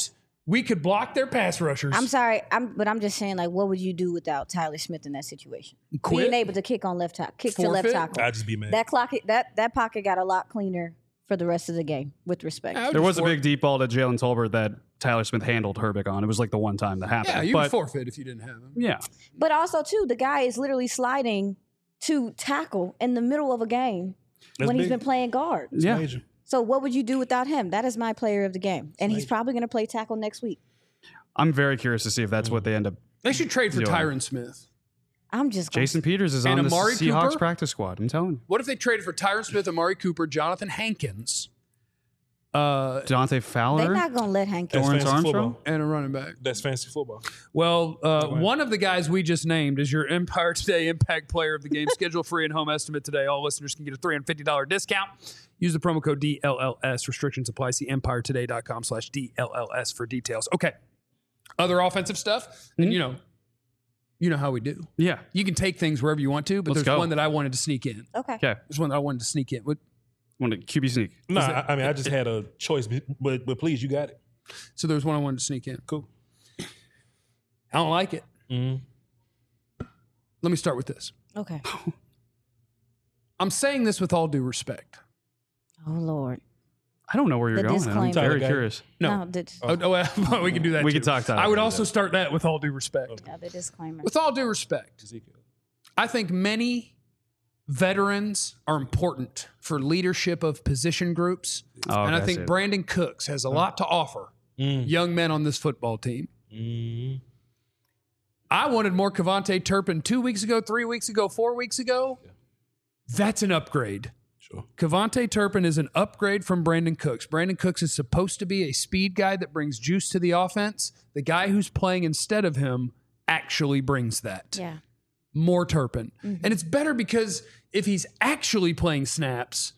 Speaker 2: We could block their pass rushers.
Speaker 1: I'm sorry, I'm but I'm just saying, like, what would you do without Tyler Smith in that situation?
Speaker 2: Quit?
Speaker 1: Being able to kick on left tackle, kick to left
Speaker 2: Forfeit?
Speaker 1: tackle.
Speaker 3: I'd just be mad.
Speaker 1: That clock, that that pocket got a lot cleaner for the rest of the game. With respect,
Speaker 2: I would
Speaker 4: There
Speaker 2: just
Speaker 4: was a
Speaker 2: for-
Speaker 4: big deep ball to Jalen Tolbert that Tyler Smith handled Herbeck on. It was like the one time that happened.
Speaker 2: Yeah, you
Speaker 4: but,
Speaker 2: would forfeit if you didn't have him.
Speaker 4: Yeah.
Speaker 1: but also too, the guy is literally sliding to tackle in the middle of a game
Speaker 3: That's
Speaker 1: when he's
Speaker 3: big.
Speaker 1: been playing guard.
Speaker 3: It's
Speaker 4: Yeah.
Speaker 3: major.
Speaker 1: So what would you do without him? That is my player of the game, and he's probably going to play tackle next week.
Speaker 4: I'm very curious to see if that's what they end up.
Speaker 2: They should trade for
Speaker 4: Doing.
Speaker 2: Tyron Smith.
Speaker 1: I'm just gonna,
Speaker 4: Jason Peters is
Speaker 2: And
Speaker 4: on the
Speaker 2: Amari
Speaker 4: Seahawks
Speaker 2: Cooper?
Speaker 4: practice squad. I'm telling you.
Speaker 2: What if they traded for Tyron Smith, Amari Cooper, Jonathan Hankins, uh,
Speaker 4: Dante Fowler.
Speaker 1: They're not going to let Hank.
Speaker 3: That's
Speaker 4: Lawrence
Speaker 3: fantasy
Speaker 4: Armstrong?
Speaker 3: football.
Speaker 2: and a running back?
Speaker 3: That's fantasy football.
Speaker 2: Well, uh,
Speaker 3: Right.
Speaker 2: one of the guys we just named is your Empire Today Impact Player of the Game. Schedule free and home estimate today. All listeners can get a three hundred fifty dollars discount. Use the promo code D L L S. Restrictions apply. See empiretoday.com slash D L L S for details. Okay. Other offensive stuff. And, you know, you know how we do.
Speaker 4: Yeah.
Speaker 2: You can take things wherever you want to, but
Speaker 4: Let's
Speaker 2: there's
Speaker 4: go.
Speaker 2: one that I wanted to sneak in.
Speaker 1: Okay.
Speaker 4: Okay.
Speaker 2: There's one that I wanted to sneak in. What?
Speaker 4: Want to Q B sneak?
Speaker 3: No, I, I mean I just had a choice, but but please, you got it.
Speaker 2: So there's one I wanted to sneak in.
Speaker 3: Cool.
Speaker 2: I don't like it.
Speaker 3: Mm-hmm.
Speaker 2: Let me start with this.
Speaker 1: Okay.
Speaker 2: I'm saying this with all due respect.
Speaker 1: Oh Lord.
Speaker 4: I don't know where you're
Speaker 1: The
Speaker 4: going. I'm
Speaker 1: disclaimer.
Speaker 4: very
Speaker 3: Tyler,
Speaker 4: curious.
Speaker 2: No.
Speaker 1: the,
Speaker 2: Oh, oh, well, we can do that.
Speaker 4: We
Speaker 2: too.
Speaker 4: can talk Tyler.
Speaker 2: I would
Speaker 4: We can
Speaker 2: also start that with all due respect.
Speaker 1: yeah, the disclaimer.
Speaker 2: With all due respect, I think many veterans are important for leadership of position groups.
Speaker 4: Oh,
Speaker 2: and I
Speaker 4: okay,
Speaker 2: think
Speaker 4: see it.
Speaker 2: Brandon Cooks has a lot to offer
Speaker 3: Mm.
Speaker 2: young men on this football team.
Speaker 3: Mm.
Speaker 2: I wanted more Kevontae Turpin two weeks ago, three weeks ago, four weeks ago. That's an upgrade.
Speaker 3: Sure.
Speaker 2: Kevontae Turpin is an upgrade from Brandon Cooks. Brandon Cooks is supposed to be a speed guy that brings juice to the offense. The guy who's playing instead of him actually brings that.
Speaker 1: Yeah.
Speaker 2: More Turpin.
Speaker 1: Mm-hmm.
Speaker 2: And it's better because if he's actually playing snaps,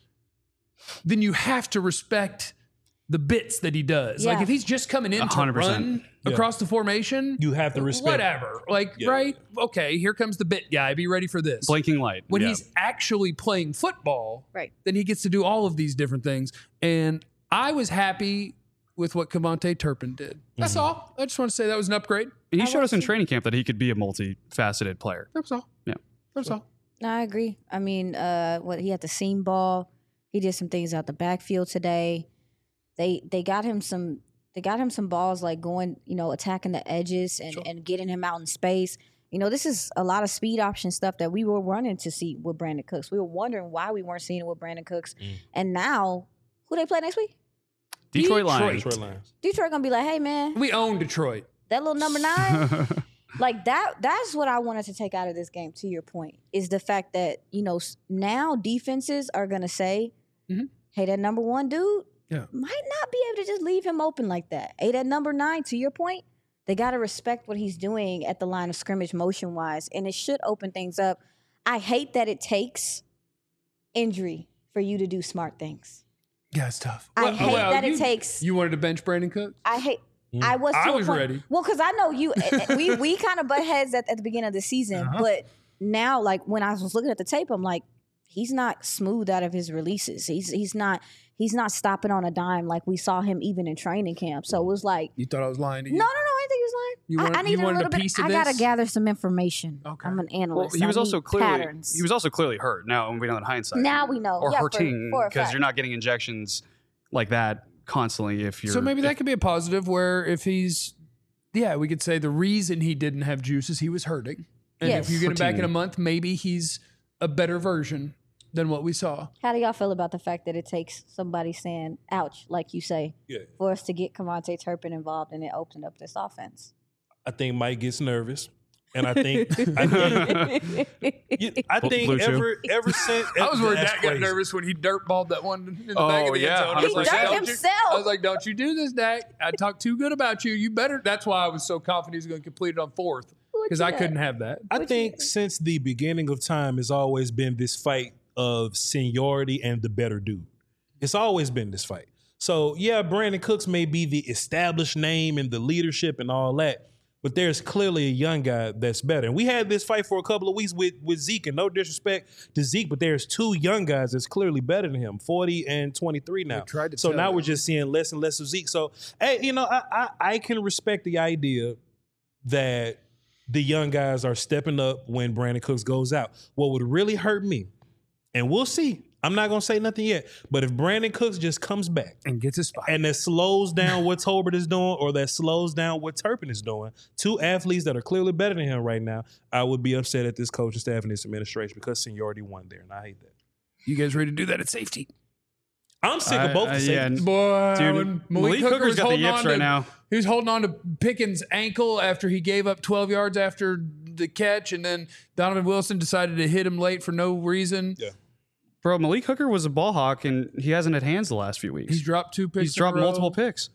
Speaker 2: then you have to respect the bits that he does.
Speaker 1: Yeah.
Speaker 2: Like if he's just coming in
Speaker 4: one
Speaker 2: to
Speaker 4: hundred percent.
Speaker 2: run
Speaker 3: Yeah.
Speaker 2: across the formation,
Speaker 3: You have to respect.
Speaker 2: whatever. Like,
Speaker 3: Yeah.
Speaker 2: right? Okay, here comes the bit guy. Be ready for this.
Speaker 4: Blinking light.
Speaker 2: When
Speaker 4: Yeah.
Speaker 2: he's actually playing football,
Speaker 1: Right.
Speaker 2: then he gets to do all of these different things. And I was happy with what Kevontae Turpin did. That's
Speaker 3: Mm-hmm.
Speaker 2: all. I just want to say that was an upgrade.
Speaker 4: And he
Speaker 1: I
Speaker 4: showed us in
Speaker 1: was-
Speaker 4: training camp that he could be a multifaceted player.
Speaker 2: That's all.
Speaker 4: Yeah.
Speaker 2: That's all.
Speaker 1: No, I agree. I mean, uh, what he had the seam ball. He did some things out the backfield today. They they got him some they got him some balls like going, you know, attacking the edges and,
Speaker 3: Sure.
Speaker 1: and getting him out in space. You know, this is a lot of speed option stuff that we were running to see with Brandon Cooks. We were wondering why we weren't seeing it with Brandon Cooks.
Speaker 3: Mm.
Speaker 1: And now, who they play next week?
Speaker 4: Detroit,
Speaker 2: Detroit.
Speaker 4: Lions.
Speaker 3: Detroit Lions.
Speaker 1: Detroit gonna be like, hey man,
Speaker 2: We own Detroit.
Speaker 1: that little number nine. Like that that's what I wanted to take out of this game, to your point, is the fact that, you know, s- now defenses are gonna say,
Speaker 2: Mhm.
Speaker 1: hey, that number one dude
Speaker 2: Yeah.
Speaker 1: might not be able to just leave him open like that. Hey, that number nine, to your point, they gotta respect what he's doing at the line of scrimmage motion wise, and it should open things up. I hate that it takes injury for you to do smart things.
Speaker 2: Yeah, it's tough.
Speaker 1: I hate that it
Speaker 2: you-
Speaker 1: takes
Speaker 2: You wanted to bench Brandon Cooks?
Speaker 1: I hate.
Speaker 3: Mm.
Speaker 1: I was. To
Speaker 2: I
Speaker 1: a
Speaker 2: was
Speaker 1: point-
Speaker 2: ready.
Speaker 1: Well, because I know you. eh, eh, we we kind of butt heads at, at the beginning of the season,
Speaker 2: Uh-huh.
Speaker 1: but now, like when I was looking at the tape, I'm like, he's not smooth out of his releases. He's he's not he's not stopping on a dime like we saw him even in training camp. So it was like,
Speaker 2: You thought I was lying to
Speaker 1: no,
Speaker 2: you?
Speaker 1: no, no. I think he was lying.
Speaker 2: You
Speaker 1: I-
Speaker 2: wanted-
Speaker 1: I,
Speaker 2: you
Speaker 1: need a
Speaker 2: wanted a
Speaker 1: little bit.
Speaker 2: piece of
Speaker 1: I gotta
Speaker 2: this?
Speaker 1: gather some information.
Speaker 2: Okay.
Speaker 1: I'm an
Speaker 4: Well,
Speaker 1: analyst.
Speaker 4: he was
Speaker 1: I
Speaker 4: also
Speaker 1: need
Speaker 4: clearly
Speaker 1: patterns.
Speaker 4: he was also clearly hurt. Now we know in hindsight.
Speaker 1: Now we know.
Speaker 4: or
Speaker 1: Yeah, for-
Speaker 4: hurting
Speaker 1: for a
Speaker 4: because
Speaker 1: fact.
Speaker 4: you're not getting injections like that constantly. If you're
Speaker 2: So maybe
Speaker 4: if-
Speaker 2: that could be a positive where if he's, yeah, we could say the reason he didn't have juice is he was hurting. And
Speaker 1: Yes.
Speaker 2: if you get him back in a
Speaker 4: Hurting.
Speaker 2: month, maybe he's a better version than what we saw.
Speaker 1: How do y'all feel about the fact that it takes somebody saying "ouch," like you say,
Speaker 3: Yeah.
Speaker 1: for us to get Kevontae Turpin involved and it opened up this offense?
Speaker 3: I think Mike gets nervous, and I think I think, you- I think
Speaker 4: Blue chew.
Speaker 3: ever ever since
Speaker 2: I was worried
Speaker 3: that's
Speaker 2: Dak got
Speaker 3: crazy.
Speaker 2: nervous when he dirt balled that one in the
Speaker 4: Oh,
Speaker 2: back of the
Speaker 4: yeah,
Speaker 2: end zone. I was
Speaker 1: He
Speaker 2: like,
Speaker 1: dirt
Speaker 2: "Don't you-"
Speaker 1: himself.
Speaker 2: I was like, don't you do this, Dak. I talked too good about you. You better. That's why I was so confident he was going to complete it on fourth because I couldn't have that.
Speaker 3: I think since the beginning of time has always been this fight of seniority and the better dude. It's always been this fight. So yeah, Brandon Cooks may be the established name and the leadership and all that, but there's clearly a young guy that's better. And we had this fight for a couple of weeks with, with Zeke, and no disrespect to Zeke, but there's two young guys that's clearly better than him, forty and twenty-three now.
Speaker 2: tried to
Speaker 3: so
Speaker 2: tell
Speaker 3: now
Speaker 2: you.
Speaker 3: we're just seeing less and less of Zeke. So, hey, you know, I, I, I can respect the idea that the young guys are stepping up when Brandon Cooks goes out. What would really hurt me, and we'll see, I'm not going to say nothing yet, but if Brandon Cooks just comes back
Speaker 2: and gets his fight.
Speaker 3: and that slows down what Tolbert is doing or that slows down what Turpin is doing, two athletes that are clearly better than him right now, I would be upset at this coaching staff and this administration because seniority won there, and I hate that.
Speaker 2: You guys ready to do that at safety?
Speaker 3: I'm sick
Speaker 4: I-
Speaker 3: of both
Speaker 4: I-
Speaker 3: the
Speaker 4: yeah,
Speaker 3: safeties.
Speaker 2: Boy,
Speaker 4: Dude,
Speaker 2: when
Speaker 4: Malik
Speaker 2: Malik
Speaker 4: Hooker's
Speaker 2: Hooker was
Speaker 4: got the
Speaker 2: holding
Speaker 4: yips
Speaker 2: on
Speaker 4: right
Speaker 2: to,
Speaker 4: now.
Speaker 2: He was holding on to Pickens' ankle after he gave up twelve yards after the catch, and then Donovan Wilson decided to hit him late for no reason.
Speaker 3: Yeah.
Speaker 4: Bro, Malik Hooker was a ball hawk, and he hasn't had hands the last few weeks.
Speaker 2: He's dropped two picks.
Speaker 4: He's dropped
Speaker 2: in a row.
Speaker 4: multiple picks.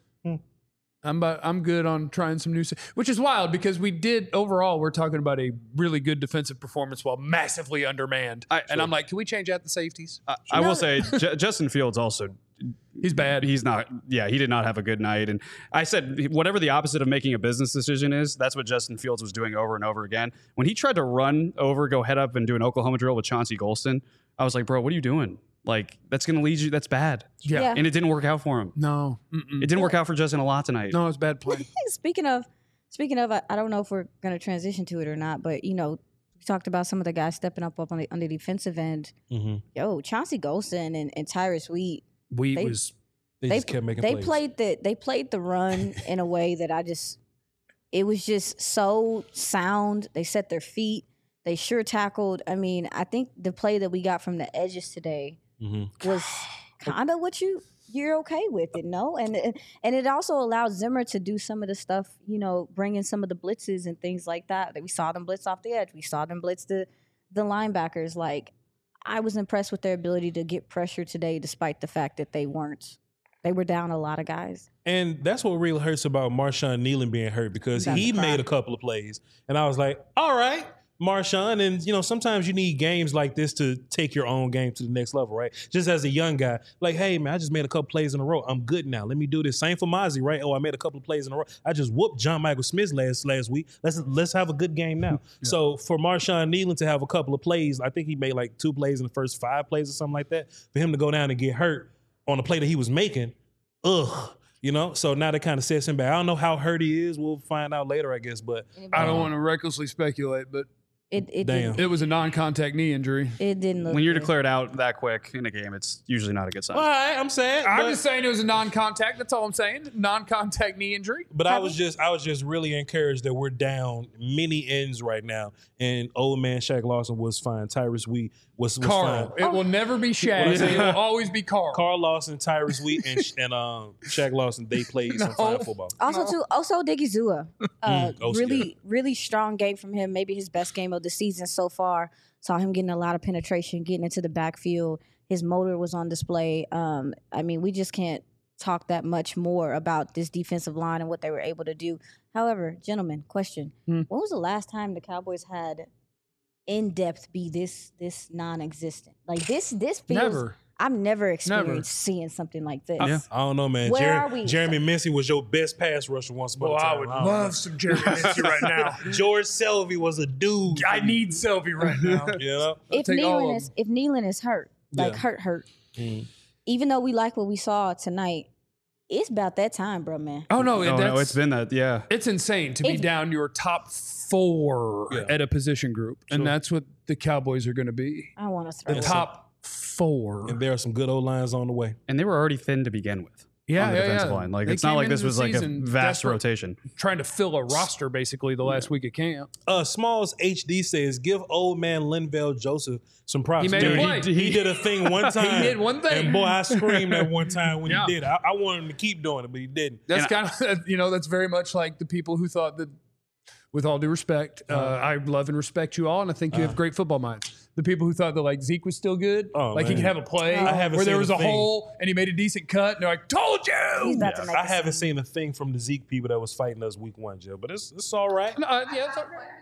Speaker 2: I'm about, I'm good on trying some new, sa- which is wild because we did overall. We're talking about a really good defensive performance while massively undermanned.
Speaker 4: I-
Speaker 2: and I'm like, can we change out the safeties?
Speaker 4: I, I
Speaker 1: No.
Speaker 4: will say, J- Justin Fields also.
Speaker 2: He's bad.
Speaker 4: He's not. Yeah, he did not have a good night. And I said, whatever the opposite of making a business decision is, that's what Justin Fields was doing over and over again. When he tried to run over, go head up, and do an Oklahoma drill with Chauncey Golston, I was like, bro, what are you doing? Like, that's going to lead you. That's bad.
Speaker 2: Yeah.
Speaker 1: Yeah.
Speaker 4: And it didn't work out for him.
Speaker 2: No. Mm-mm.
Speaker 4: It didn't work out for Justin a lot tonight.
Speaker 2: No, it's bad play.
Speaker 1: Speaking of, speaking of, I, I don't know if we're going to transition to it or not, but you know, we talked about some of the guys stepping up up on the on the defensive end.
Speaker 3: Mm-hmm.
Speaker 1: Yo, Chauncey Golston and, and Tyrus Wheat,
Speaker 2: We
Speaker 1: They-
Speaker 2: was
Speaker 3: They,
Speaker 1: they
Speaker 3: just kept making
Speaker 1: they
Speaker 3: plays.
Speaker 1: played the they played the run in a way that I just, it was just so sound. They set their feet. They sure tackled. I mean, I think the play that we got from the edges today
Speaker 3: Mm-hmm.
Speaker 1: was kind of what you you're okay with it, no? And it- and it also allowed Zimmer to do some of the stuff, you know, bring in some of the blitzes and things like that. That we saw them blitz off the edge. We saw them blitz the the linebackers. Like, I was impressed with their ability to get pressure today, despite the fact that they weren't. They were down a lot of guys.
Speaker 3: And that's what really hurts about Marshawn Nealon being hurt because
Speaker 1: That's
Speaker 3: he
Speaker 1: the
Speaker 3: made
Speaker 1: problem.
Speaker 3: a couple of plays. And I was like, all right, Marshawn. And, you know, sometimes you need games like this to take your own game to the next level, right? Just as a young guy, like, hey, man, I just made a couple plays in a row. I'm good now. Let me do this. Same for Mozzie, right? Oh, I made a couple of plays in a row. I just whooped John Michael Smith last last week. Let's let's have a good game now. So for Marshawn Nealon to have a couple of plays, I think he made like two plays in the first five plays or something like that. For him to go down and get hurt on a play that he was making, ugh. You know, so now that kind of sets him back. I don't know how hurt he is. We'll find out later, I guess. But
Speaker 2: I don't want to recklessly speculate, but
Speaker 1: It it
Speaker 3: Damn.
Speaker 1: didn't,
Speaker 2: it was a non-contact knee injury.
Speaker 1: it didn't look
Speaker 4: When you're
Speaker 1: good.
Speaker 4: declared out that quick in a game, it's usually not a good sign.
Speaker 3: all right, I'm sad.
Speaker 2: I'm
Speaker 3: but-
Speaker 2: just saying it was a non-contact. That's all I'm saying. Non-contact knee injury.
Speaker 3: But I was just I was just really encouraged that we're down many ends right now. And old man Shaq Lawson was fine. Tyrus Wheat was, was
Speaker 2: Carl.
Speaker 3: fine.
Speaker 2: It will never be Shaq. It will always be Carl.
Speaker 3: Carl Lawson, Tyrus Wheat, and and um, Shaq Lawson, they played some
Speaker 2: No.
Speaker 3: fine football.
Speaker 1: Also, too, also Diggy Zua, uh,
Speaker 3: Mm, oh,
Speaker 1: really,
Speaker 3: yeah.
Speaker 1: really strong game from him. Maybe his best game of the season so far. Saw him getting a lot of penetration, getting into the backfield. His motor was on display. Um, I mean, we just can't talk that much more about this defensive line and what they were able to do. However, gentlemen, question:
Speaker 2: Hmm.
Speaker 1: When was the last time the Cowboys had in depth be this this non-existent? Like this, this feels.
Speaker 2: Never.
Speaker 1: I've never experienced seeing something like this.
Speaker 4: Yeah.
Speaker 3: I don't know, man.
Speaker 1: Where
Speaker 3: Jer-
Speaker 1: are we?
Speaker 3: Jeremy Mincy was your best pass rusher once upon
Speaker 2: Well,
Speaker 3: a time.
Speaker 2: I would
Speaker 3: don't
Speaker 2: love some Jeremy Mincy right now.
Speaker 3: know. George Selvey was a dude.
Speaker 2: I need Selvey right now.
Speaker 3: you know.
Speaker 1: if
Speaker 2: take all
Speaker 1: Nealon
Speaker 2: of
Speaker 1: is if Nealon is hurt, like
Speaker 3: Yeah.
Speaker 1: hurt, hurt.
Speaker 3: Mm.
Speaker 1: Even though we like what we saw tonight, it's about that time, bro, man.
Speaker 2: Oh no,
Speaker 4: oh,
Speaker 2: that's,
Speaker 4: no, it's been that. Yeah.
Speaker 2: it's insane to be
Speaker 1: If-
Speaker 2: down your top four
Speaker 3: Yeah.
Speaker 2: at a position group,
Speaker 3: Sure.
Speaker 2: and that's what the Cowboys are going to be.
Speaker 1: I want to throw
Speaker 2: The
Speaker 1: it.
Speaker 2: top four.
Speaker 3: And there are some good old lines on the way.
Speaker 4: And they were already thin to begin with.
Speaker 2: yeah,
Speaker 4: on the
Speaker 2: yeah,
Speaker 4: defensive
Speaker 2: yeah.
Speaker 4: line. Like,
Speaker 2: They
Speaker 4: it's not
Speaker 2: came
Speaker 4: like this
Speaker 2: into
Speaker 4: was
Speaker 2: the
Speaker 4: like a
Speaker 2: season
Speaker 4: vast
Speaker 2: desperate,
Speaker 4: rotation.
Speaker 2: trying to fill a roster basically the last week of camp.
Speaker 3: Uh, Smalls H D says, give old man Linval Joseph some props.
Speaker 2: He made
Speaker 3: Dude,
Speaker 2: a play.
Speaker 3: He, he did a thing one time.
Speaker 2: did one thing.
Speaker 3: And boy, I screamed that one time when
Speaker 2: Yeah.
Speaker 3: he did. I, I wanted him to keep doing it, but he didn't.
Speaker 2: That's
Speaker 4: And
Speaker 2: kind of you know that's very much like the people who thought that. With all due respect, uh, I love and respect you all, and I think you have great football minds. The people who thought that like Zeke was still good,
Speaker 3: Oh,
Speaker 2: like he
Speaker 3: man.
Speaker 2: could have a play
Speaker 1: I
Speaker 3: haven't
Speaker 2: where there
Speaker 3: seen
Speaker 2: was
Speaker 3: a
Speaker 2: a
Speaker 3: thing.
Speaker 2: hole and he made a decent cut, and they're like, "Told you."
Speaker 1: He's about to make
Speaker 3: I
Speaker 1: a
Speaker 3: haven't
Speaker 1: scene.
Speaker 3: seen a thing from the Zeke people that was fighting us week one, Joe. But it's it's all right.
Speaker 2: No, uh, yeah, it's all right.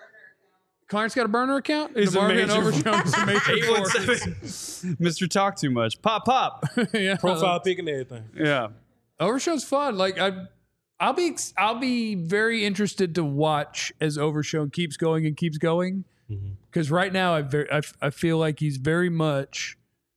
Speaker 2: Clarence got a burner account.
Speaker 3: He's a
Speaker 2: DeMarvin
Speaker 3: major-
Speaker 2: Overshown is a major force.
Speaker 4: Mister Talk Too Much. Pop, pop.
Speaker 2: yeah.
Speaker 3: Profile pic and everything.
Speaker 4: Yeah.
Speaker 2: Overshow's fun. Like I, I'll be I'll be very interested to watch as Overshown keeps going and keeps going. Because mm-hmm. right now I, very, I I feel like he's very much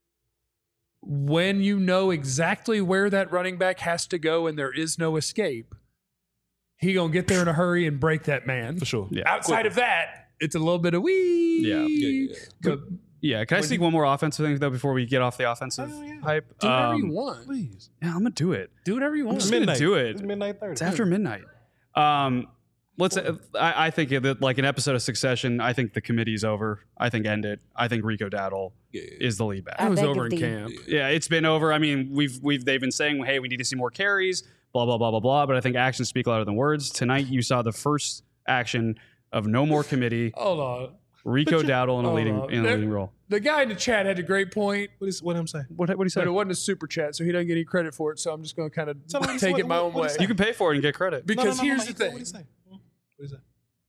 Speaker 2: when you know exactly where that running back has to go and there is no escape, he gonna get there in a hurry and break that man.
Speaker 3: For sure.
Speaker 2: Yeah. Outside of that, it's a little bit of wee.
Speaker 4: Yeah.
Speaker 3: Yeah, yeah.
Speaker 2: But
Speaker 4: Yeah, can I sneak one more offensive thing though before we get off the offensive
Speaker 3: Oh, yeah.
Speaker 4: hype?
Speaker 2: do whatever
Speaker 4: Um,
Speaker 2: you want.
Speaker 3: Please.
Speaker 4: Yeah, I'm gonna do it.
Speaker 2: Do whatever you
Speaker 4: I'm
Speaker 2: want.
Speaker 4: just gonna do it.
Speaker 3: It's midnight thirty.
Speaker 4: It's after midnight. Um, let's. Uh, I, I think that like an episode of Succession. I think the committee's over. I think end it. I think Rico Dowdle
Speaker 3: Yeah.
Speaker 4: is the lead back.
Speaker 1: I
Speaker 2: I was
Speaker 1: beg
Speaker 2: over
Speaker 1: of
Speaker 2: in
Speaker 1: thee.
Speaker 2: camp.
Speaker 4: Yeah, it's been over. I mean, we've we've they've been saying, hey, we need to see more carries. Blah blah blah blah blah. But I think actions speak louder than words. Tonight, you saw the first action of no more committee.
Speaker 2: Hold on.
Speaker 4: Rico
Speaker 3: you-
Speaker 4: Dowdle in a
Speaker 2: hold
Speaker 4: leading
Speaker 2: on.
Speaker 4: in a
Speaker 2: There-
Speaker 4: leading role.
Speaker 2: The guy in the chat had a great point,
Speaker 3: What is what I'm saying?
Speaker 4: What what do you say?
Speaker 2: but it wasn't a super chat, so he doesn't get any credit for it. So I'm just going to kind of
Speaker 3: Tell him
Speaker 2: take
Speaker 3: what-
Speaker 2: it my
Speaker 3: what-
Speaker 2: own
Speaker 3: what
Speaker 2: way.
Speaker 3: he said.
Speaker 4: You can pay for it and get credit.
Speaker 2: Because
Speaker 3: No, no, no,
Speaker 2: here's
Speaker 3: no,
Speaker 2: the
Speaker 3: no,
Speaker 2: thing.
Speaker 3: What is that? What is that?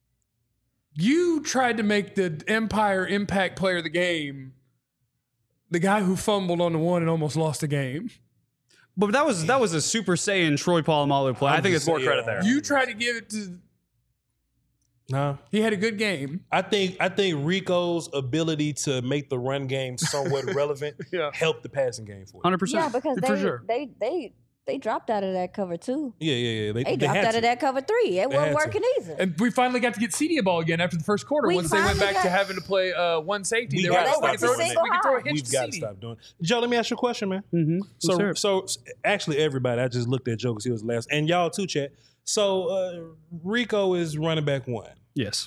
Speaker 2: You tried to make the Empire impact player of the game the guy who fumbled on the one and almost lost the game.
Speaker 4: But that was that was a Super Saiyan Troy Polamalu play. I
Speaker 3: I'm
Speaker 4: think
Speaker 3: just
Speaker 4: it's more
Speaker 3: saying,
Speaker 4: credit
Speaker 3: yeah.
Speaker 4: there.
Speaker 2: You tried to give it to.
Speaker 3: No.
Speaker 2: He had a good game.
Speaker 3: I think I think Rico's ability to make the run game somewhat relevant
Speaker 2: Yeah.
Speaker 3: helped the passing game for him.
Speaker 4: Hundred
Speaker 1: Yeah,
Speaker 4: percent.
Speaker 1: because
Speaker 2: For
Speaker 1: they,
Speaker 2: sure.
Speaker 1: they they they dropped out of that cover too.
Speaker 3: Yeah, yeah, yeah.
Speaker 1: They,
Speaker 3: they
Speaker 1: dropped
Speaker 3: had
Speaker 1: out
Speaker 3: to.
Speaker 1: of that cover three. It
Speaker 3: They had
Speaker 1: wasn't
Speaker 3: to.
Speaker 1: working either.
Speaker 2: And we finally got to get Cedia ball again after the first quarter.
Speaker 1: We
Speaker 2: once they went
Speaker 1: finally
Speaker 2: back to
Speaker 1: got-
Speaker 2: having to play uh, one safety.
Speaker 3: We
Speaker 2: they were
Speaker 3: gotta
Speaker 2: like, oh,
Speaker 3: stop
Speaker 2: we can throw,
Speaker 3: doing
Speaker 2: it-
Speaker 3: that.
Speaker 2: we can throw a hitch
Speaker 3: We've
Speaker 2: to
Speaker 3: got to
Speaker 2: Cedia.
Speaker 3: stop doing it. Joe, let me ask you a question, man.
Speaker 4: Mm-hmm.
Speaker 3: So,
Speaker 4: sure.
Speaker 3: so s- actually, everybody, I just looked at Joe because he was last, and y'all too, chat. So, uh, Rico is running back one.
Speaker 4: yes,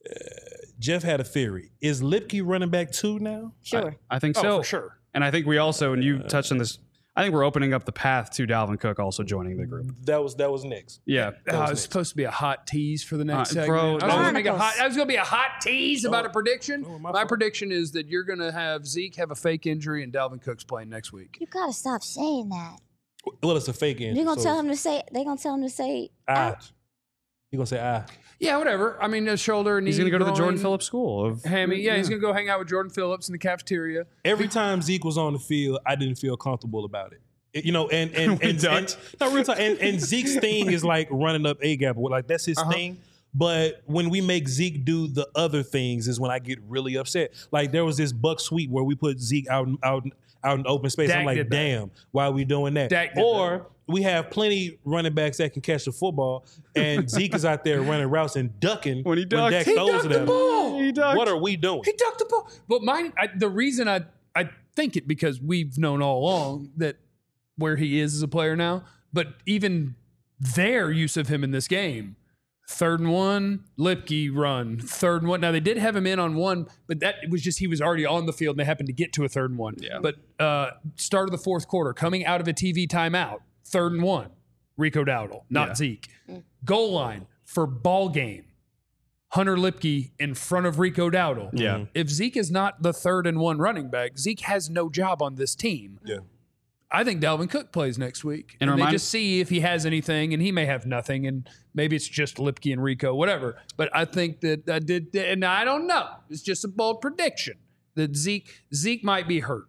Speaker 3: Jeff had a theory. Is Lipke running back two now?
Speaker 1: Sure.
Speaker 4: I think
Speaker 2: Oh,
Speaker 4: so.
Speaker 2: for sure.
Speaker 4: And I think we also, and you touched on this. I think we're opening up the path to Dalvin Cook also joining the group.
Speaker 3: That was that was next.
Speaker 4: Yeah.
Speaker 3: That
Speaker 2: Uh,
Speaker 3: was
Speaker 2: it's
Speaker 3: next.
Speaker 2: supposed to be a hot tease for the next
Speaker 4: Uh,
Speaker 2: segment.
Speaker 4: bro,
Speaker 2: I was,
Speaker 4: no.
Speaker 2: gonna make a hot,
Speaker 1: Chronicles.
Speaker 2: I was gonna be a hot tease about a prediction.
Speaker 3: Oh,
Speaker 2: my
Speaker 3: my fault.
Speaker 2: prediction is that you're gonna have Zeke have a fake injury and Dalvin Cook's playing next week.
Speaker 1: You gotta stop saying that.
Speaker 3: Well, it's a fake injury.
Speaker 1: You're gonna
Speaker 3: so
Speaker 1: tell him to say. They gonna tell him to say.
Speaker 3: ah. You gonna say ah?
Speaker 2: Yeah, whatever. I mean, his shoulder, knee,
Speaker 4: He's going to go to the Jordan
Speaker 2: groin,
Speaker 4: Phillips School of
Speaker 2: hammy. Yeah, he's gonna go hang out with Jordan Phillips in the cafeteria.
Speaker 3: Every time Zeke was on the field, I didn't feel comfortable about it. It- you know, and and
Speaker 4: We
Speaker 3: and, and,
Speaker 4: ducked.
Speaker 3: no, real talk, and, and Zeke's thing is like running up a gap, like that's his
Speaker 2: Uh-huh.
Speaker 3: thing. But when we make Zeke do the other things, is when I get really upset. Like there was this buck sweep where we put Zeke out out out in open space.
Speaker 2: Dak
Speaker 3: I'm like,
Speaker 2: did that.
Speaker 3: damn, why are we doing that?
Speaker 2: Dak did
Speaker 3: or we have plenty running backs that can catch the football, and Zeke is out there running routes and ducking
Speaker 4: When he ducked.
Speaker 3: Dak
Speaker 2: He
Speaker 3: throws
Speaker 2: ducked
Speaker 3: it
Speaker 2: the
Speaker 3: at him.
Speaker 2: ball.
Speaker 4: He ducked.
Speaker 3: What are we doing?
Speaker 2: He ducked the ball. But mine, I, the reason I I think it because we've known all along that where he is as a player now. But even their use of him in this game, third and one, Lipke run, third and one. Now they did have him in on one, but that was just he was already on the field and they happened to get to a third and one.
Speaker 4: Yeah.
Speaker 2: But uh, start of the fourth quarter, coming out of a T V timeout, third and one, Rico Dowdle, not
Speaker 4: Yeah.
Speaker 2: Zeke. Goal line for ball game. Hunter Lipke in front of Rico Dowdle.
Speaker 4: Yeah.
Speaker 2: If Zeke is not the third and one running back, Zeke has no job on this team.
Speaker 3: Yeah.
Speaker 2: I think Dalvin Cook plays next week.
Speaker 4: And
Speaker 2: And, they
Speaker 4: remind-
Speaker 2: just see if he has anything, and he may have nothing, and maybe it's just Lipke and Rico, whatever. But I think that I did, and I don't know. It's just a bold prediction that Zeke Zeke might be hurt.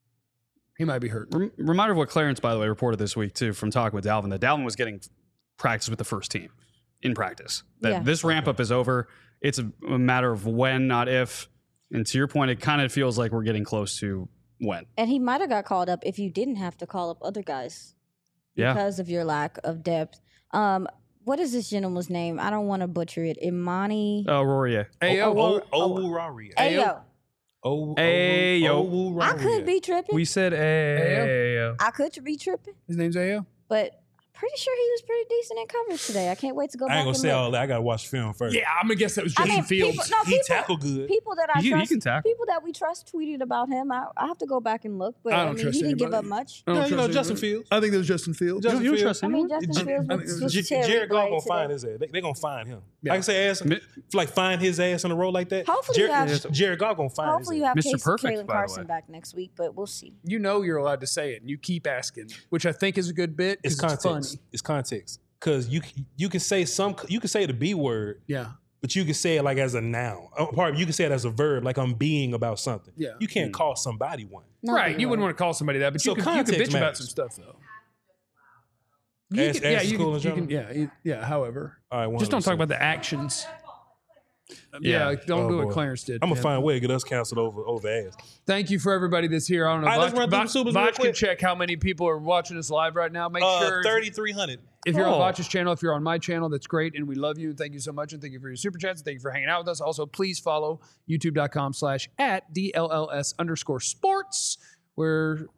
Speaker 2: He might be hurt.
Speaker 4: Rem- Reminder of what Clarence, by the way, reported this week too from talking with Dalvin that Dalvin was getting practice with the first team in practice. That
Speaker 1: Yeah.
Speaker 4: this ramp up is over. It's a, a matter of when, not if. And to your point, it kind of feels like we're getting close to when.
Speaker 1: And he might have got called up if you didn't have to call up other guys
Speaker 4: Yeah.
Speaker 1: because of your lack of depth. Um, what is this gentleman's name? I don't want to butcher it. Imani.
Speaker 4: Oh, Rory. Yeah.
Speaker 2: Ayo,
Speaker 3: Oh, oh, oh, Rari.
Speaker 1: Ayo.
Speaker 3: Oh,
Speaker 4: Ayo.
Speaker 1: I could be tripping.
Speaker 4: We said, hey.
Speaker 1: I could be tripping,
Speaker 2: his name's Ayo.
Speaker 1: but pretty sure he was pretty decent in coverage today. I can't wait to go
Speaker 3: I
Speaker 1: back
Speaker 3: ain't gonna
Speaker 1: and
Speaker 3: say
Speaker 1: look.
Speaker 3: all that. I gotta watch film first.
Speaker 2: Yeah, I'm gonna guess that was
Speaker 1: I
Speaker 2: Justin
Speaker 1: mean,
Speaker 2: Fields.
Speaker 1: people, no,
Speaker 3: he
Speaker 1: people,
Speaker 3: tackled good.
Speaker 1: people that I
Speaker 4: He- he
Speaker 1: trust,
Speaker 4: can tackle.
Speaker 1: people that we trust tweeted about him. I, I have to go back and look, but
Speaker 2: I
Speaker 1: I,
Speaker 2: don't
Speaker 1: mean,
Speaker 2: trust
Speaker 1: he didn't give
Speaker 2: anybody.
Speaker 1: up much.
Speaker 2: I don't
Speaker 3: Yeah, you know
Speaker 2: trust
Speaker 3: Justin
Speaker 2: anybody.
Speaker 3: Fields.
Speaker 2: I think that was Justin Fields.
Speaker 3: Justin
Speaker 4: You don't
Speaker 3: Fields.
Speaker 4: trust
Speaker 1: I
Speaker 4: him?
Speaker 1: mean, Justin
Speaker 3: J-
Speaker 1: Fields
Speaker 2: I
Speaker 1: was,
Speaker 2: think-
Speaker 1: was
Speaker 3: J-
Speaker 1: cherry
Speaker 3: Jared Goff
Speaker 1: blade
Speaker 3: gonna
Speaker 1: today.
Speaker 3: find his ass. They, they gonna find him.
Speaker 2: Yeah.
Speaker 3: I can say ass,
Speaker 4: Mi-
Speaker 3: like find his ass in a row like that.
Speaker 1: Hopefully you
Speaker 3: Jared,
Speaker 1: have-
Speaker 3: Jared Goff gonna find
Speaker 1: Hopefully
Speaker 3: his
Speaker 1: you
Speaker 3: ass.
Speaker 1: have
Speaker 4: Mister
Speaker 1: Case,
Speaker 4: Perfect,
Speaker 1: Kalen
Speaker 4: by the
Speaker 1: Carson
Speaker 4: way.
Speaker 1: back next week, but we'll see.
Speaker 2: You know you're allowed to say it, and you keep asking, which I think is a good bit.
Speaker 3: It's
Speaker 2: 'cause It's
Speaker 3: context.
Speaker 2: funny.
Speaker 3: It's context. Cause you you can say some you can say the B word,
Speaker 2: Yeah.
Speaker 3: but you can say it like as a noun. Oh, pardon, you can say it as a verb, like I'm being about something.
Speaker 2: Yeah.
Speaker 3: You can't call somebody one.
Speaker 1: No,
Speaker 2: right.
Speaker 1: we
Speaker 2: You wouldn't
Speaker 1: won't.
Speaker 2: want to call somebody that, but
Speaker 3: So
Speaker 2: you could, you could
Speaker 3: context
Speaker 2: bitch about
Speaker 3: matters.
Speaker 2: some stuff, though. You
Speaker 3: Ass-
Speaker 2: can, yeah,
Speaker 3: ass is
Speaker 2: you
Speaker 3: cool
Speaker 2: can,
Speaker 3: in
Speaker 2: you
Speaker 3: general?
Speaker 2: can, yeah, you- yeah. However,
Speaker 3: All right,
Speaker 2: just don't talk
Speaker 3: one hundred percent.
Speaker 2: about the actions. Yeah,
Speaker 4: Yeah.
Speaker 2: don't
Speaker 3: Oh,
Speaker 2: do what
Speaker 3: boy.
Speaker 2: Clarence did.
Speaker 3: I'm gonna
Speaker 2: man.
Speaker 3: find a way to get us canceled over over ass.
Speaker 2: Thank you for everybody that's here. I don't know.
Speaker 3: All right, let's
Speaker 2: Vach-
Speaker 3: run through
Speaker 2: Vach-
Speaker 3: the supers real
Speaker 2: Vach can
Speaker 3: quick.
Speaker 2: check how many people are watching us live right now. Make
Speaker 3: Uh,
Speaker 2: sure if-
Speaker 3: thirty-three hundred.
Speaker 2: if you're
Speaker 4: Oh.
Speaker 2: on Vach's channel, if you're on my channel, that's great, and we love you. And thank you so much, and thank you for your super chats. Thank you for hanging out with us. Also, please follow youtube.com slash at DLLS underscore sports, where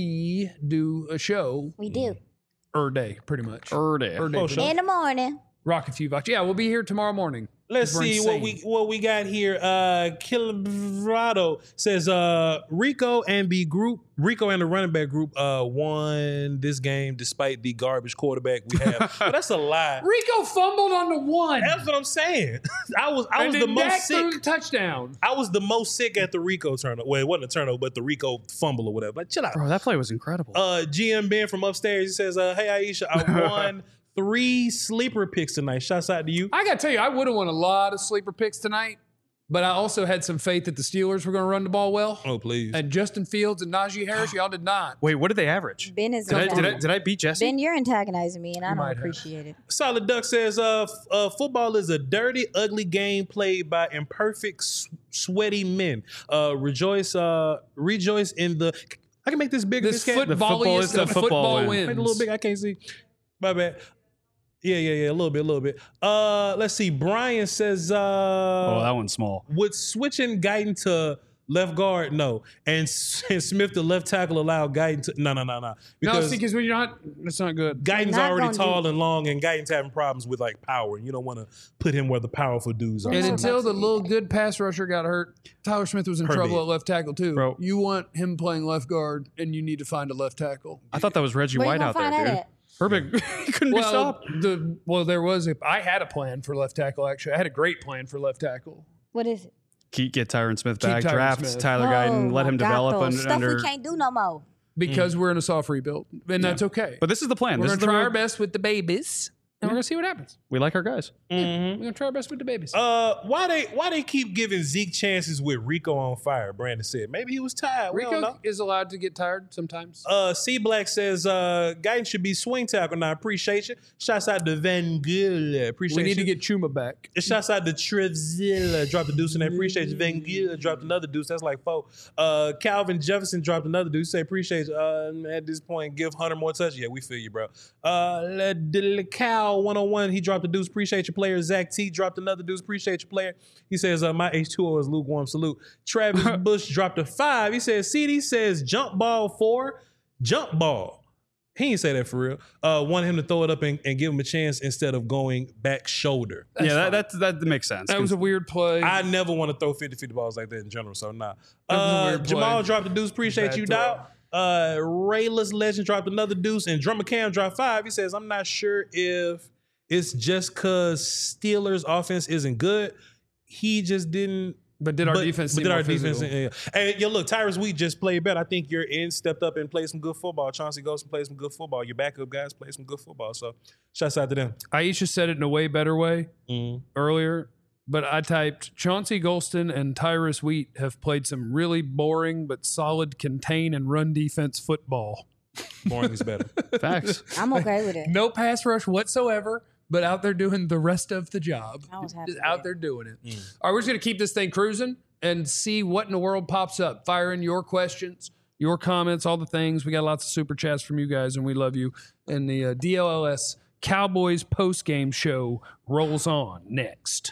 Speaker 2: we do a show
Speaker 1: We do.
Speaker 2: er day, pretty much.
Speaker 4: Er day.
Speaker 2: Er day,
Speaker 3: Oh,
Speaker 2: pretty
Speaker 3: sure.
Speaker 2: much.
Speaker 1: In the morning.
Speaker 2: Rock a few Vach. Yeah, we'll be here tomorrow morning.
Speaker 3: Let's
Speaker 2: We're
Speaker 3: see what
Speaker 2: insane.
Speaker 3: we what we got here. Uh Kilabrado says uh Rico and the group Rico and the running back group uh won this game despite the garbage quarterback we have. But that's a lie.
Speaker 2: Rico fumbled on the one.
Speaker 3: That's what I'm saying. I was I
Speaker 2: and
Speaker 3: was the
Speaker 2: then
Speaker 3: most
Speaker 2: Dak
Speaker 3: sick.
Speaker 2: threw the touchdown.
Speaker 3: I was the most sick at the Rico turnover. Well, it wasn't a turnover, but the Rico fumble or whatever. Like, chill out.
Speaker 4: Bro, that play was incredible.
Speaker 3: Uh, G M Ben from upstairs, he says, uh, hey, Aisha, I won three sleeper picks tonight. Shouts out to you.
Speaker 2: I got to tell you, I would have won a lot of sleeper picks tonight, but I also had some faith that the Steelers were going to run the ball well.
Speaker 3: Oh, please.
Speaker 2: And Justin Fields and Najee Harris, y'all did not.
Speaker 4: Wait, what did they average?
Speaker 1: Ben is
Speaker 4: Did I, did, I,
Speaker 1: antagonizing.
Speaker 4: did I beat Jesse?
Speaker 1: Ben, you're antagonizing me, and I
Speaker 2: You
Speaker 1: don't
Speaker 2: might have.
Speaker 1: appreciate it.
Speaker 3: Solid Duck says, uh, f- uh, football is a dirty, ugly game played by imperfect, s- sweaty men. Uh, rejoice, uh, rejoice in the. I can make this bigger.
Speaker 2: This
Speaker 3: This cat.
Speaker 2: football
Speaker 4: football
Speaker 2: is
Speaker 4: is
Speaker 2: the
Speaker 4: the football
Speaker 2: football
Speaker 4: win.
Speaker 2: wins.
Speaker 3: Make it a little big. I can't see. My bad. Yeah, yeah, yeah. A little bit, a little bit. Uh, let's see. Brian says, uh,
Speaker 4: Oh, that one's small.
Speaker 3: would switching Guyton to left guard? No. And, S- and Smith to left tackle allow Guyton to no, no, no, no.
Speaker 2: No,
Speaker 3: Because
Speaker 2: see, because when you're not, that's not good.
Speaker 3: Guyton's
Speaker 1: Not
Speaker 3: already
Speaker 1: gonna
Speaker 3: tall
Speaker 1: do-
Speaker 3: and long, and Guyton's having problems with like power, and you don't want to put him where the powerful dudes are.
Speaker 2: And
Speaker 1: not
Speaker 2: until
Speaker 1: about
Speaker 2: the
Speaker 1: to do
Speaker 2: little
Speaker 1: that.
Speaker 2: good pass rusher got hurt, Tyler Smith was in
Speaker 3: Herbig.
Speaker 2: trouble at left tackle too.
Speaker 4: Bro.
Speaker 2: You want him playing left guard, and you need to find a left tackle.
Speaker 4: I thought that was Reggie
Speaker 1: Where you
Speaker 4: White
Speaker 1: gonna
Speaker 4: out there,
Speaker 1: find that
Speaker 4: dude.
Speaker 1: at?
Speaker 4: Herbig, he couldn't be
Speaker 2: Well,
Speaker 4: stopped.
Speaker 2: the well, there was a. I had a plan for left tackle. Actually, I had a great plan for left tackle.
Speaker 1: What is it?
Speaker 4: Keep, get Tyron Smith
Speaker 2: Keep
Speaker 4: back,
Speaker 2: Tyron
Speaker 4: draft
Speaker 2: Smith.
Speaker 4: Tyler Guyton, let
Speaker 1: my
Speaker 4: him
Speaker 1: God,
Speaker 4: develop
Speaker 1: those
Speaker 4: under.
Speaker 1: stuff
Speaker 4: under
Speaker 1: we can't do no more.
Speaker 2: Because we're in a soft rebuild, and that's okay.
Speaker 4: but this is the plan.
Speaker 2: we're
Speaker 4: This
Speaker 2: gonna
Speaker 4: is the
Speaker 2: try
Speaker 4: real-
Speaker 2: our best with the babies, and we're gonna see what happens.
Speaker 4: We like our guys.
Speaker 3: Mhm.
Speaker 2: We're gonna try our best with the babies.
Speaker 3: Uh, why they why they keep giving Zeke chances with Rico on fire? Brandon said maybe he was tired. We don't
Speaker 2: Rico
Speaker 3: know.
Speaker 2: is allowed to get tired sometimes.
Speaker 3: Uh, C Black says uh, Guyton should be swing tackle. Now appreciate you. Shouts out to Van Gogh. Appreciate
Speaker 2: we need
Speaker 3: you.
Speaker 2: to get Chuma back.
Speaker 3: Shouts out to Trevzilla. Dropped a deuce and appreciate you. Van Gogh dropped another deuce. That's like four. Uh, Calvin Jefferson dropped another deuce. Say appreciate you. Uh, at this point, give Hunter more touch. Yeah, we feel you, bro. Uh, Le- De- Cal one oh one. He dropped a deuce. Appreciate your player. Zach T dropped another deuce. Appreciate your player. He says uh, my H two O is lukewarm. Salute. Travis Bush dropped a five. He says C D says jump ball four. Jump ball. He didn't say that for real. Uh, wanted him to throw it up and, and give him a chance instead of going back shoulder.
Speaker 2: That's
Speaker 4: yeah,
Speaker 2: fine.
Speaker 4: that, that that makes sense.
Speaker 2: That was a weird play.
Speaker 3: I never want to throw fifty-fifty balls like that in general, so nah.
Speaker 2: That was a
Speaker 3: Uh,
Speaker 2: weird
Speaker 3: Jamal
Speaker 2: play.
Speaker 3: dropped a deuce. Appreciate
Speaker 2: Bad
Speaker 3: you,
Speaker 2: throw.
Speaker 3: dog. Uh, Rayless Legend dropped another deuce, and Drummer Cam dropped five. He says, I'm not sure if it's just because Steelers' offense isn't good. He just didn't.
Speaker 2: but did our
Speaker 3: but,
Speaker 2: defense?
Speaker 3: but
Speaker 2: seem
Speaker 3: did our
Speaker 2: more
Speaker 3: defense?
Speaker 2: physical?
Speaker 3: Yeah. And yo, look, Tyrus Wheat just played better. I think your end stepped up and played some good football. Chauncey Golston played some good football. Your backup guys played some good football. So, shouts out to them.
Speaker 2: Aisha said it in a way better way
Speaker 3: Mm.
Speaker 2: earlier, but I typed Chauncey Golston and Tyrus Wheat have played some really boring but solid contain and run defense football.
Speaker 3: Boring is better.
Speaker 4: Facts.
Speaker 1: I'm okay with it.
Speaker 2: No pass rush whatsoever, but out there doing the rest of the job.
Speaker 1: I was happy
Speaker 2: Just
Speaker 1: with
Speaker 2: out
Speaker 1: it.
Speaker 2: there doing it.
Speaker 3: Mm.
Speaker 2: All right, we're just going to keep this thing cruising and see what in the world pops up. Fire in your questions, your comments, all the things. We got lots of super chats from you guys, and we love you. And the uh, D L L S Cowboys post-game show rolls on next.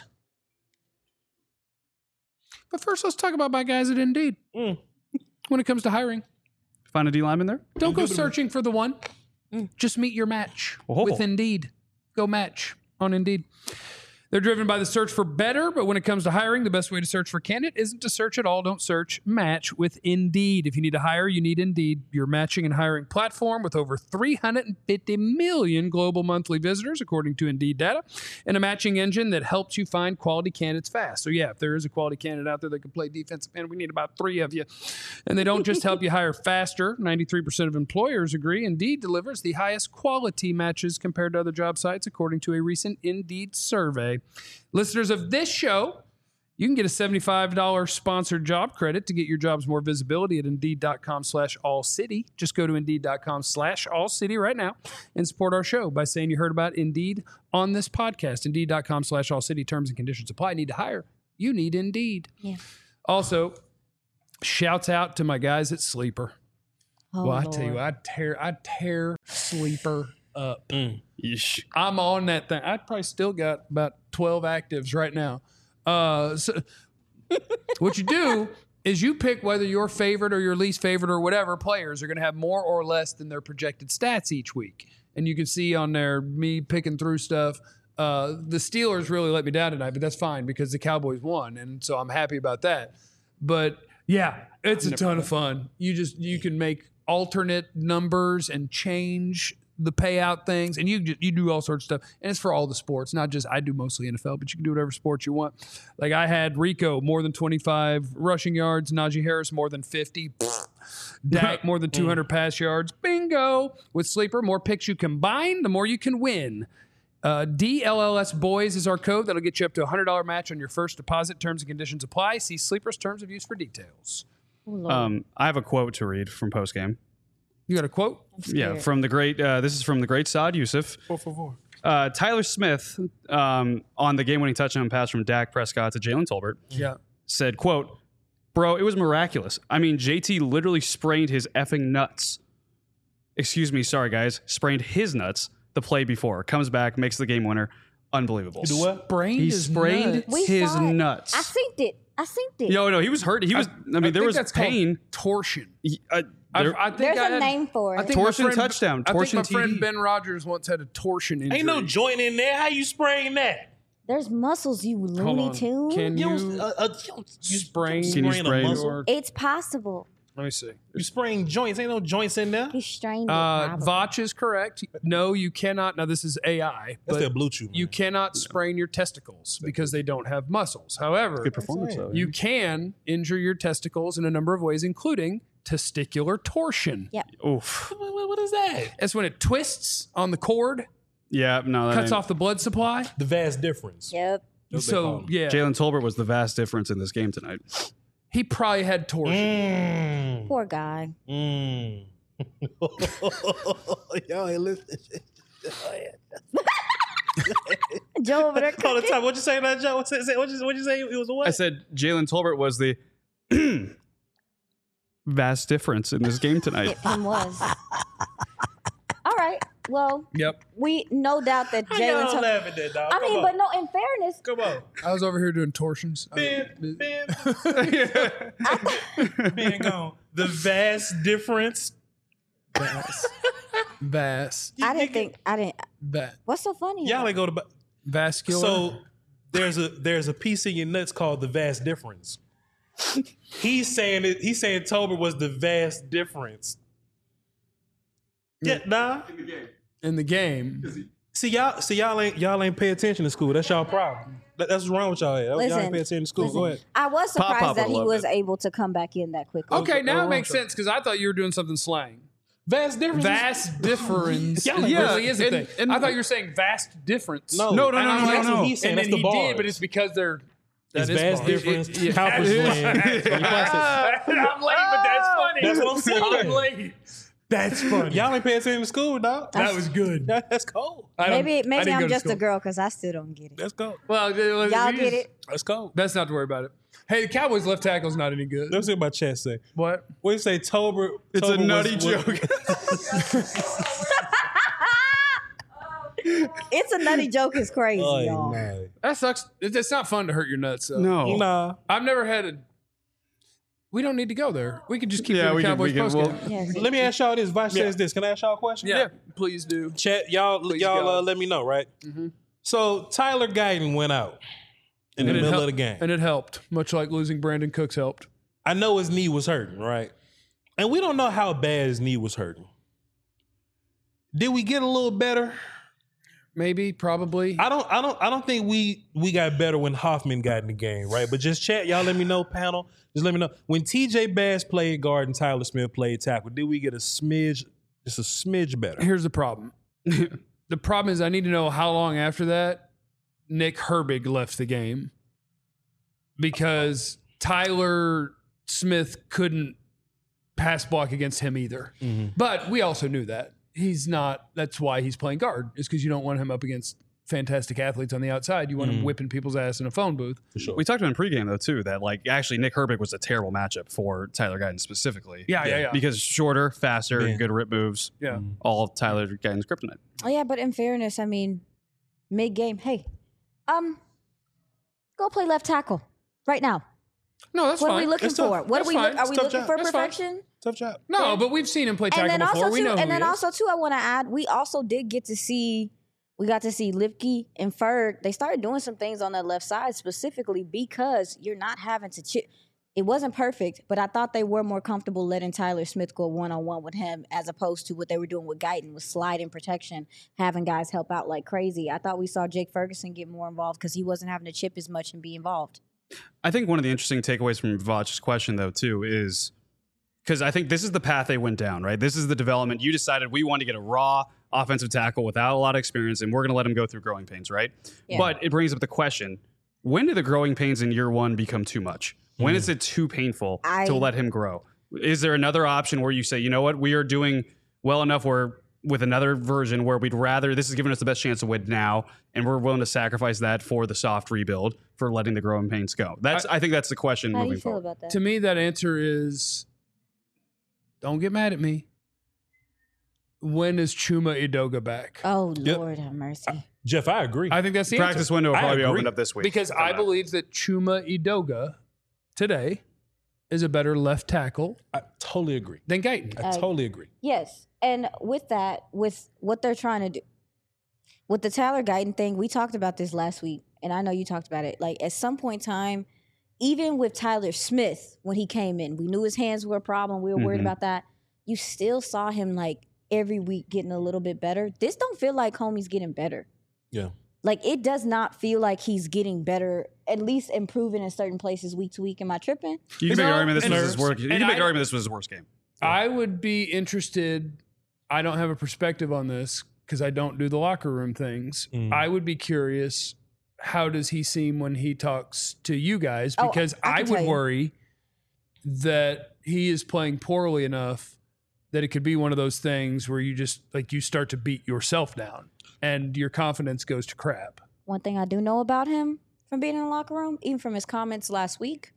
Speaker 2: But first, let's talk about my guys at Indeed.
Speaker 3: Mm.
Speaker 2: When it comes to hiring,
Speaker 4: Find a D lineman there.
Speaker 2: don't go searching for the one.
Speaker 1: Mm.
Speaker 2: Just meet your match
Speaker 4: Oh.
Speaker 2: with Indeed. Go match on Indeed. They're driven by the search for better, but when it comes to hiring, the best way to search for a candidate isn't to search at all. Don't search, match with Indeed. If you need to hire, you need Indeed, your matching and hiring platform with over three hundred fifty million global monthly visitors, according to Indeed data, and a matching engine that helps you find quality candidates fast. So yeah, if there is a quality candidate out there that can play defensive end, we need about three of you. And they don't just help you hire faster. ninety-three percent of employers agree. Indeed delivers the highest quality matches compared to other job sites, according to a recent Indeed survey. Listeners of this show You can get a seventy-five dollars sponsored job credit to get your jobs more visibility at Indeed.com slash All City. Just go to Indeed.com slash All City right now and support our show by saying you heard about Indeed on this podcast. Indeed.com slash All City. Terms and conditions apply. Need to hire? You need Indeed.
Speaker 1: Yeah.
Speaker 2: Also, shouts out to my guys at Sleeper.
Speaker 1: Oh,
Speaker 2: well, I
Speaker 1: Lord.
Speaker 2: tell you, I tear, I tear Sleeper up.
Speaker 3: Mm.
Speaker 4: Yeesh.
Speaker 2: I'm on that thing. I probably still got about twelve actives right now. Uh, so what you do is you pick whether your favorite or your least favorite or whatever players are going to have more or less than their projected stats each week. And you can see on there me picking through stuff. Uh, the Steelers really let me down tonight, but that's fine because the Cowboys won, and so I'm happy about that. But yeah, it's a ton of fun. You just you can make alternate numbers and change the payout things, and you just, you do all sorts of stuff, and it's for all the sports, not just I do mostly N F L, but you can do whatever sports you want. Like I had Rico more than twenty-five rushing yards, Najee Harris more than fifty, Dak more than two hundred pass yards. Bingo! With Sleeper, more picks you combine, the more you can win. Uh, D L L S Boys is our code that'll get you up to a one hundred dollars match on your first deposit. Terms and conditions apply. See Sleeper's terms of use for details.
Speaker 1: Oh, Lord.
Speaker 4: Um, I have a quote to read from postgame.
Speaker 2: You got a quote?
Speaker 1: I'm scared.
Speaker 4: Yeah, from the great. Uh, this is from the great Saad Youssef.
Speaker 3: Four, four, four.
Speaker 4: Uh, Tyler Smith um, on the game-winning touchdown pass from Dak Prescott to Jalen Tolbert
Speaker 2: Yeah.
Speaker 4: said, "Quote, bro, it was miraculous. I mean, J T literally sprained his effing nuts. Excuse me, sorry guys, sprained his nuts the play before. Comes back, makes the game winner. Unbelievable.
Speaker 3: You do what?
Speaker 2: Sprained
Speaker 4: He
Speaker 2: his
Speaker 4: sprained
Speaker 2: nuts.
Speaker 1: We
Speaker 4: his
Speaker 1: saw it.
Speaker 4: nuts.
Speaker 1: I synced it. I synced it.
Speaker 4: Yo, no, he was hurt. He was. I, mean,
Speaker 2: I
Speaker 4: there
Speaker 2: think
Speaker 4: was
Speaker 2: that's called
Speaker 4: pain.
Speaker 2: torsion.
Speaker 4: He- uh,
Speaker 2: I,
Speaker 4: there-
Speaker 2: I think
Speaker 1: There's
Speaker 2: I
Speaker 1: a
Speaker 2: had-
Speaker 1: name for it.
Speaker 2: I think my
Speaker 4: Torsion
Speaker 2: friend-
Speaker 4: touchdown,
Speaker 2: I
Speaker 4: torsion
Speaker 2: think my friend
Speaker 4: T D.
Speaker 2: Ben Rogers once had a torsion injury.
Speaker 3: Ain't no joint in there. How you spraying that?
Speaker 1: There's muscles, you
Speaker 2: Hold
Speaker 1: Looney
Speaker 2: on.
Speaker 1: Tune.
Speaker 2: Can
Speaker 3: You,
Speaker 2: you?
Speaker 3: don't- uh, uh, you, don't- you
Speaker 2: sprain-
Speaker 3: you
Speaker 4: Can you
Speaker 3: sprain a
Speaker 4: sprain
Speaker 3: muscle?
Speaker 2: your-
Speaker 1: It's possible.
Speaker 2: Let me see.
Speaker 3: You spraying joints. Ain't no joints in there.
Speaker 1: He strained it.
Speaker 2: Uh,
Speaker 1: probably.
Speaker 2: Vach is correct. No, you cannot. Now this is A I,
Speaker 3: That's
Speaker 2: but
Speaker 3: that blue chew. Man.
Speaker 2: you cannot sprain your testicles because they don't have muscles. However,
Speaker 4: good performance
Speaker 3: saying.
Speaker 4: though.
Speaker 2: you can injure your testicles in a number of ways, including testicular torsion.
Speaker 4: Oof.
Speaker 3: What, what- what is that?
Speaker 2: That's when it twists on the cord,
Speaker 4: Yeah, no, that
Speaker 2: cuts
Speaker 4: ain't-
Speaker 2: off the blood supply.
Speaker 3: The vast difference.
Speaker 1: Yep.
Speaker 3: That's what they call
Speaker 2: So
Speaker 3: it.
Speaker 2: yeah,
Speaker 4: Jalen Tolbert was the vast difference in this game tonight.
Speaker 2: he probably had torsion.
Speaker 3: Mm.
Speaker 1: Poor guy.
Speaker 3: Mm. Y'all ain't listening.
Speaker 1: Joe over there
Speaker 3: All the
Speaker 1: cooking.
Speaker 3: time. What you say that, Joe? What you say? What you, what you say? It was a what?
Speaker 4: I said Jalen Tolbert was the vast difference in this game tonight.
Speaker 1: It him was. All right. Well,
Speaker 2: Yep.
Speaker 1: we no doubt that
Speaker 3: How y'all
Speaker 1: Jalen. Tuck-
Speaker 3: laughing at that, dog?
Speaker 1: I
Speaker 3: Come
Speaker 1: mean,
Speaker 3: on.
Speaker 1: but no. In fairness,
Speaker 3: Come on.
Speaker 2: I was over here doing torsions.
Speaker 3: Ben, Ben, Ben gone. The vast difference.
Speaker 2: Vast. Vast.
Speaker 1: I didn't think. I didn't.
Speaker 2: Va-
Speaker 1: What's so funny?
Speaker 3: Y'all
Speaker 1: about
Speaker 3: ain't go to. bu-
Speaker 2: vascular.
Speaker 3: So there's a there's a piece in your nuts called the vast difference. He's saying it. He's saying Tolbert was the vast difference. Yeah, nah.
Speaker 2: in the game,
Speaker 3: See y'all. See y'all ain't y'all ain't pay attention to school. That's y'all problem. That, that's what's wrong with y'all. Y'all
Speaker 1: Listen,
Speaker 3: ain't pay attention to school.
Speaker 1: Listen,
Speaker 3: Go ahead.
Speaker 1: I was
Speaker 4: Pop
Speaker 1: surprised
Speaker 4: Pop
Speaker 1: that he
Speaker 4: would've
Speaker 1: was
Speaker 4: loved
Speaker 1: able to come back in that quickly.
Speaker 2: okay, now
Speaker 3: oh,
Speaker 2: it makes
Speaker 3: sure.
Speaker 2: sense because I thought you were doing something slang.
Speaker 3: Vast difference.
Speaker 2: Vast difference.
Speaker 3: Yeah,
Speaker 2: it
Speaker 3: yeah,
Speaker 2: really is a
Speaker 4: and-
Speaker 2: thing.
Speaker 4: and-
Speaker 2: I thought you were saying vast difference.
Speaker 3: No,
Speaker 4: No, no,
Speaker 2: And
Speaker 4: no,
Speaker 2: I'm
Speaker 4: no,
Speaker 2: like,
Speaker 3: That's
Speaker 4: no.
Speaker 3: what he's saying.
Speaker 2: And
Speaker 3: That's
Speaker 2: then
Speaker 3: the
Speaker 2: he
Speaker 3: bars.
Speaker 2: did, but it's because they're.
Speaker 3: It's
Speaker 2: that is
Speaker 3: vast
Speaker 2: bars.
Speaker 3: difference.
Speaker 2: It- it-
Speaker 3: Cowper slang.
Speaker 2: I'm late, but that's funny.
Speaker 3: That's what I'm saying.
Speaker 2: I'm late. That's funny.
Speaker 3: Y'all ain't pay attention to school, dog.
Speaker 2: that was good.
Speaker 3: That's cold.
Speaker 2: I don't-
Speaker 1: Maybe
Speaker 2: I
Speaker 1: maybe
Speaker 2: didn't go
Speaker 1: I'm
Speaker 2: to
Speaker 1: just a
Speaker 2: school.
Speaker 1: girl because I still don't get it.
Speaker 3: That's cold.
Speaker 2: Well, y'all
Speaker 1: Y'all get it?
Speaker 3: That's cold.
Speaker 2: That's not to worry about it. Hey, the Cowboys' left tackle's not any good.
Speaker 3: Let's see what my chat say.
Speaker 2: What?
Speaker 3: What do you say, Tolbert?
Speaker 4: It's a
Speaker 3: Tolbert
Speaker 4: nutty
Speaker 3: was-
Speaker 4: joke.
Speaker 1: It's a nutty joke. Is crazy,
Speaker 3: Oh,
Speaker 1: y'all.
Speaker 3: no.
Speaker 2: That sucks. It- It's not fun to hurt your nuts. Though.
Speaker 4: No.
Speaker 3: Nah.
Speaker 2: I've never had a. We don't need to go there. We could just keep
Speaker 4: Yeah,
Speaker 2: doing
Speaker 4: we can-
Speaker 2: Cowboys
Speaker 4: we can-
Speaker 2: post
Speaker 4: well-
Speaker 1: Yes.
Speaker 3: Let me ask y'all this. Vice
Speaker 2: Yeah.
Speaker 3: says this. Can I ask y'all a question?
Speaker 2: yeah, please do.
Speaker 3: Chat, y'all,
Speaker 2: Please
Speaker 3: y'all
Speaker 2: go.
Speaker 3: uh, let me know, right?
Speaker 2: Mhm.
Speaker 3: So Tyler Guyton went out in the
Speaker 2: And it
Speaker 3: middle
Speaker 2: hel-
Speaker 3: of the game.
Speaker 2: and it helped, much like losing Brandon Cooks helped.
Speaker 3: I know his knee was hurting, right? And we don't know how bad his knee was hurting. Did we get a little better?
Speaker 2: Maybe, probably.
Speaker 3: I don't, I don't, I don't think we we got better when Hoffman got in the game, right? But just chat, y'all. Let me know, panel. Just let me know when T J Bass played guard and Tyler Smith played tackle. Did we get a smidge, just a smidge better?
Speaker 2: Here's the problem. The problem is I need to know how long after that Nick Herbig left the game. because Tyler Smith couldn't pass block against him either.
Speaker 3: Mm-hmm.
Speaker 2: But we also knew that. He's not, that's why he's playing guard, is because you don't want him up against fantastic athletes on the outside. You want
Speaker 3: Mm-hmm.
Speaker 2: him whipping people's ass in a phone booth.
Speaker 3: For sure.
Speaker 4: We talked about in pregame though too that like actually Nick Herbig was a terrible matchup for Tyler Guyton specifically.
Speaker 2: Yeah, yeah,
Speaker 3: Yeah.
Speaker 2: yeah.
Speaker 4: Because shorter, faster,
Speaker 3: Man.
Speaker 4: good rip moves.
Speaker 2: Yeah.
Speaker 4: All of Tyler Guyton's kryptonite.
Speaker 1: Oh yeah, but in fairness, I mean, mid game, hey, um, go play left tackle right now.
Speaker 2: No, that's
Speaker 1: What
Speaker 2: fine.
Speaker 1: are we looking
Speaker 3: That's tough.
Speaker 1: for? What
Speaker 2: That's
Speaker 1: are we?
Speaker 2: fine.
Speaker 1: Look, are
Speaker 3: It's
Speaker 1: we
Speaker 3: tough
Speaker 1: looking
Speaker 3: job.
Speaker 1: for
Speaker 2: That's fine.
Speaker 1: perfection?
Speaker 3: Tough job.
Speaker 2: No, but we've seen him play
Speaker 1: And
Speaker 2: tackle
Speaker 1: then
Speaker 2: before.
Speaker 1: also
Speaker 2: We
Speaker 1: too,
Speaker 2: know who
Speaker 1: and then
Speaker 2: he is.
Speaker 1: also too, I want to add, we also did get to see, we got to see Lipke and Ferg. They started doing some things on that left side specifically because you're not having to chip. It wasn't perfect, but I thought they were more comfortable letting Tyler Smith go one on one with him as opposed to what they were doing with Guyton with sliding protection, having guys help out like crazy. I thought we saw Jake Ferguson get more involved because he wasn't having to chip as much and be involved.
Speaker 4: I think one of the interesting takeaways from Vach's question, though, too, is because I think this is the path they went down, right? This is the development. You decided we want to get a raw offensive tackle without a lot of experience, and we're going to let him go through growing pains, right?
Speaker 1: Yeah.
Speaker 4: But it brings up the question, when do the growing pains in year one become too much? When is it too painful
Speaker 1: I-
Speaker 4: to let him grow? Is there another option where you say, you know what, we are doing well enough where with another version where we'd rather, this is giving us the best chance to win now, and we're willing to sacrifice that for the soft rebuild, for letting the growing pains go? That's I, think that's the question
Speaker 1: How do
Speaker 4: moving
Speaker 1: you feel
Speaker 4: forward.
Speaker 1: about that?
Speaker 2: To me, that answer is, don't get mad at me. When is Chuma Edoga back?
Speaker 1: Oh,
Speaker 3: Yep.
Speaker 1: Lord have mercy.
Speaker 3: Jeff, I agree.
Speaker 2: I think that's the
Speaker 4: Practice
Speaker 2: answer.
Speaker 4: window will
Speaker 3: I
Speaker 4: probably be
Speaker 3: agree.
Speaker 4: opened up this week.
Speaker 2: Because I
Speaker 4: Uh,
Speaker 2: believe that Chuma Edoga today is a better left tackle
Speaker 3: I totally agree.
Speaker 2: than Guyton.
Speaker 3: I
Speaker 1: Uh,
Speaker 3: totally agree.
Speaker 1: Yes. And with that, with what they're trying to do, with the Tyler Guyton thing, we talked about this last week, and I know you talked about it. Like, at some point in time, even with Tyler Smith, when he came in, we knew his hands were a problem. We were worried
Speaker 4: Mhm.
Speaker 1: about that. You still saw him, like, every week getting a little bit better. This don't feel like homie's getting better.
Speaker 3: Yeah.
Speaker 1: Like, it does not feel like he's getting better, at least improving in certain places week to week. Am I tripping?
Speaker 4: You can
Speaker 2: It's
Speaker 4: make an
Speaker 2: all-
Speaker 4: argument this
Speaker 2: and
Speaker 4: was his
Speaker 2: nerves.
Speaker 4: worst. You
Speaker 2: And
Speaker 4: can make an
Speaker 2: I-
Speaker 4: argument this was his worst game.
Speaker 2: I would be interested. I don't have a perspective on this because I don't do the locker room things.
Speaker 3: Mm.
Speaker 2: I would be curious. How does he seem when he talks to you guys?
Speaker 1: Oh,
Speaker 2: Because
Speaker 1: I
Speaker 2: I,
Speaker 1: can tell
Speaker 2: would
Speaker 1: you.
Speaker 2: worry that he is playing poorly enough that it could be one of those things where you just like you start to beat yourself down and your confidence goes to crap.
Speaker 1: One thing I do know about him from being in the locker room, even from his comments last week,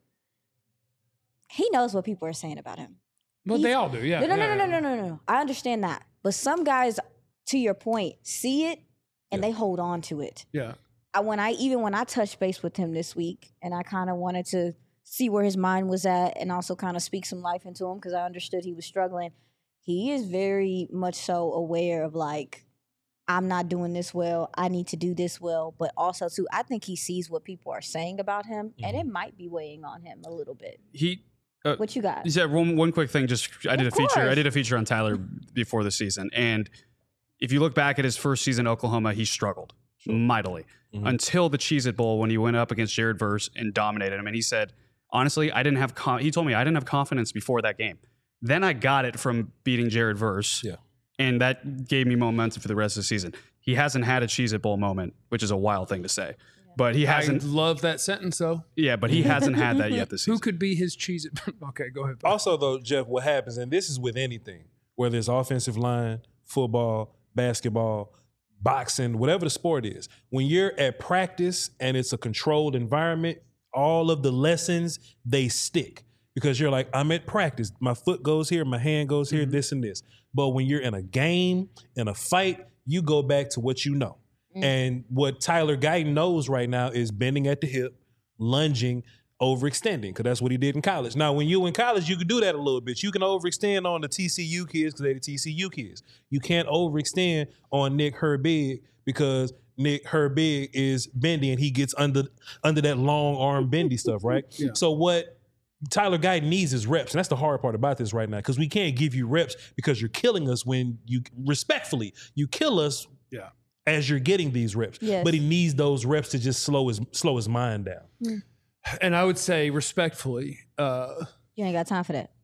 Speaker 1: he knows what people are saying about him.
Speaker 2: Well,
Speaker 1: He's-
Speaker 2: they all do, yeah.
Speaker 1: No, no, no,
Speaker 2: yeah,
Speaker 1: no,
Speaker 2: yeah.
Speaker 1: no, no, no, no. I understand that. But some guys, to your point, see it and they hold on to it.
Speaker 2: Yeah.
Speaker 1: I, when I even when I touched base with him this week, and I kind of wanted to see where his mind was at, and also kind of speak some life into him because I understood he was struggling. He is very much so aware of like, I'm not doing this well. I need to do this well. But also too, I think he sees what people are saying about him, and it might be weighing on him a little bit.
Speaker 4: He uh,
Speaker 1: What you got?
Speaker 4: You said one one quick thing. Just I did
Speaker 1: Of
Speaker 4: a feature. I
Speaker 1: course.
Speaker 4: did a feature on Tyler before the season, and if you look back at his first season in Oklahoma, he struggled mightily
Speaker 3: Mhm.
Speaker 4: until the Cheez-It Bowl when he went up against Jared Verse and dominated him. And he said, honestly, I didn't have. Con-, he told me I didn't have confidence before that game. Then I got it from beating Jared Verse,
Speaker 3: Yeah.
Speaker 4: and that gave me momentum for the rest of the season. He hasn't had a Cheez-It Bowl moment, which is a wild thing to say, but he
Speaker 2: I
Speaker 4: hasn't.
Speaker 2: love that sentence though.
Speaker 4: Yeah, but he hasn't had that yet this season.
Speaker 2: Who could be his cheese? Okay, go ahead.
Speaker 3: Also, though, Jeff, what happens, and this is with anything, whether it's offensive line, football, basketball, boxing, whatever the sport is, when you're at practice and it's a controlled environment, all of the lessons, they stick because you're like, I'm at practice. My foot goes here, my hand goes here, this and this. But when you're in a game, in a fight, you go back to what you know. And what Tyler Guyton knows right now is bending at the hip, lunging, overextending, because that's what he did in college. Now, when you in college, you can do that a little bit. You can overextend on the T C U kids because they're the T C U kids. You can't overextend on Nick Herbig because Nick Herbig is bendy and he gets under under that long arm bendy stuff, right?
Speaker 2: Yeah.
Speaker 3: So what Tyler Guyton needs is reps, and that's the hard part about this right now because we can't give you reps because you're killing us when you respectfully you kill us.
Speaker 2: Yeah.
Speaker 3: As you're getting these reps,
Speaker 1: Yes.
Speaker 3: but he needs those reps to just slow his slow his mind down.
Speaker 2: And I would say respectfully, uh,
Speaker 1: You ain't got time for that.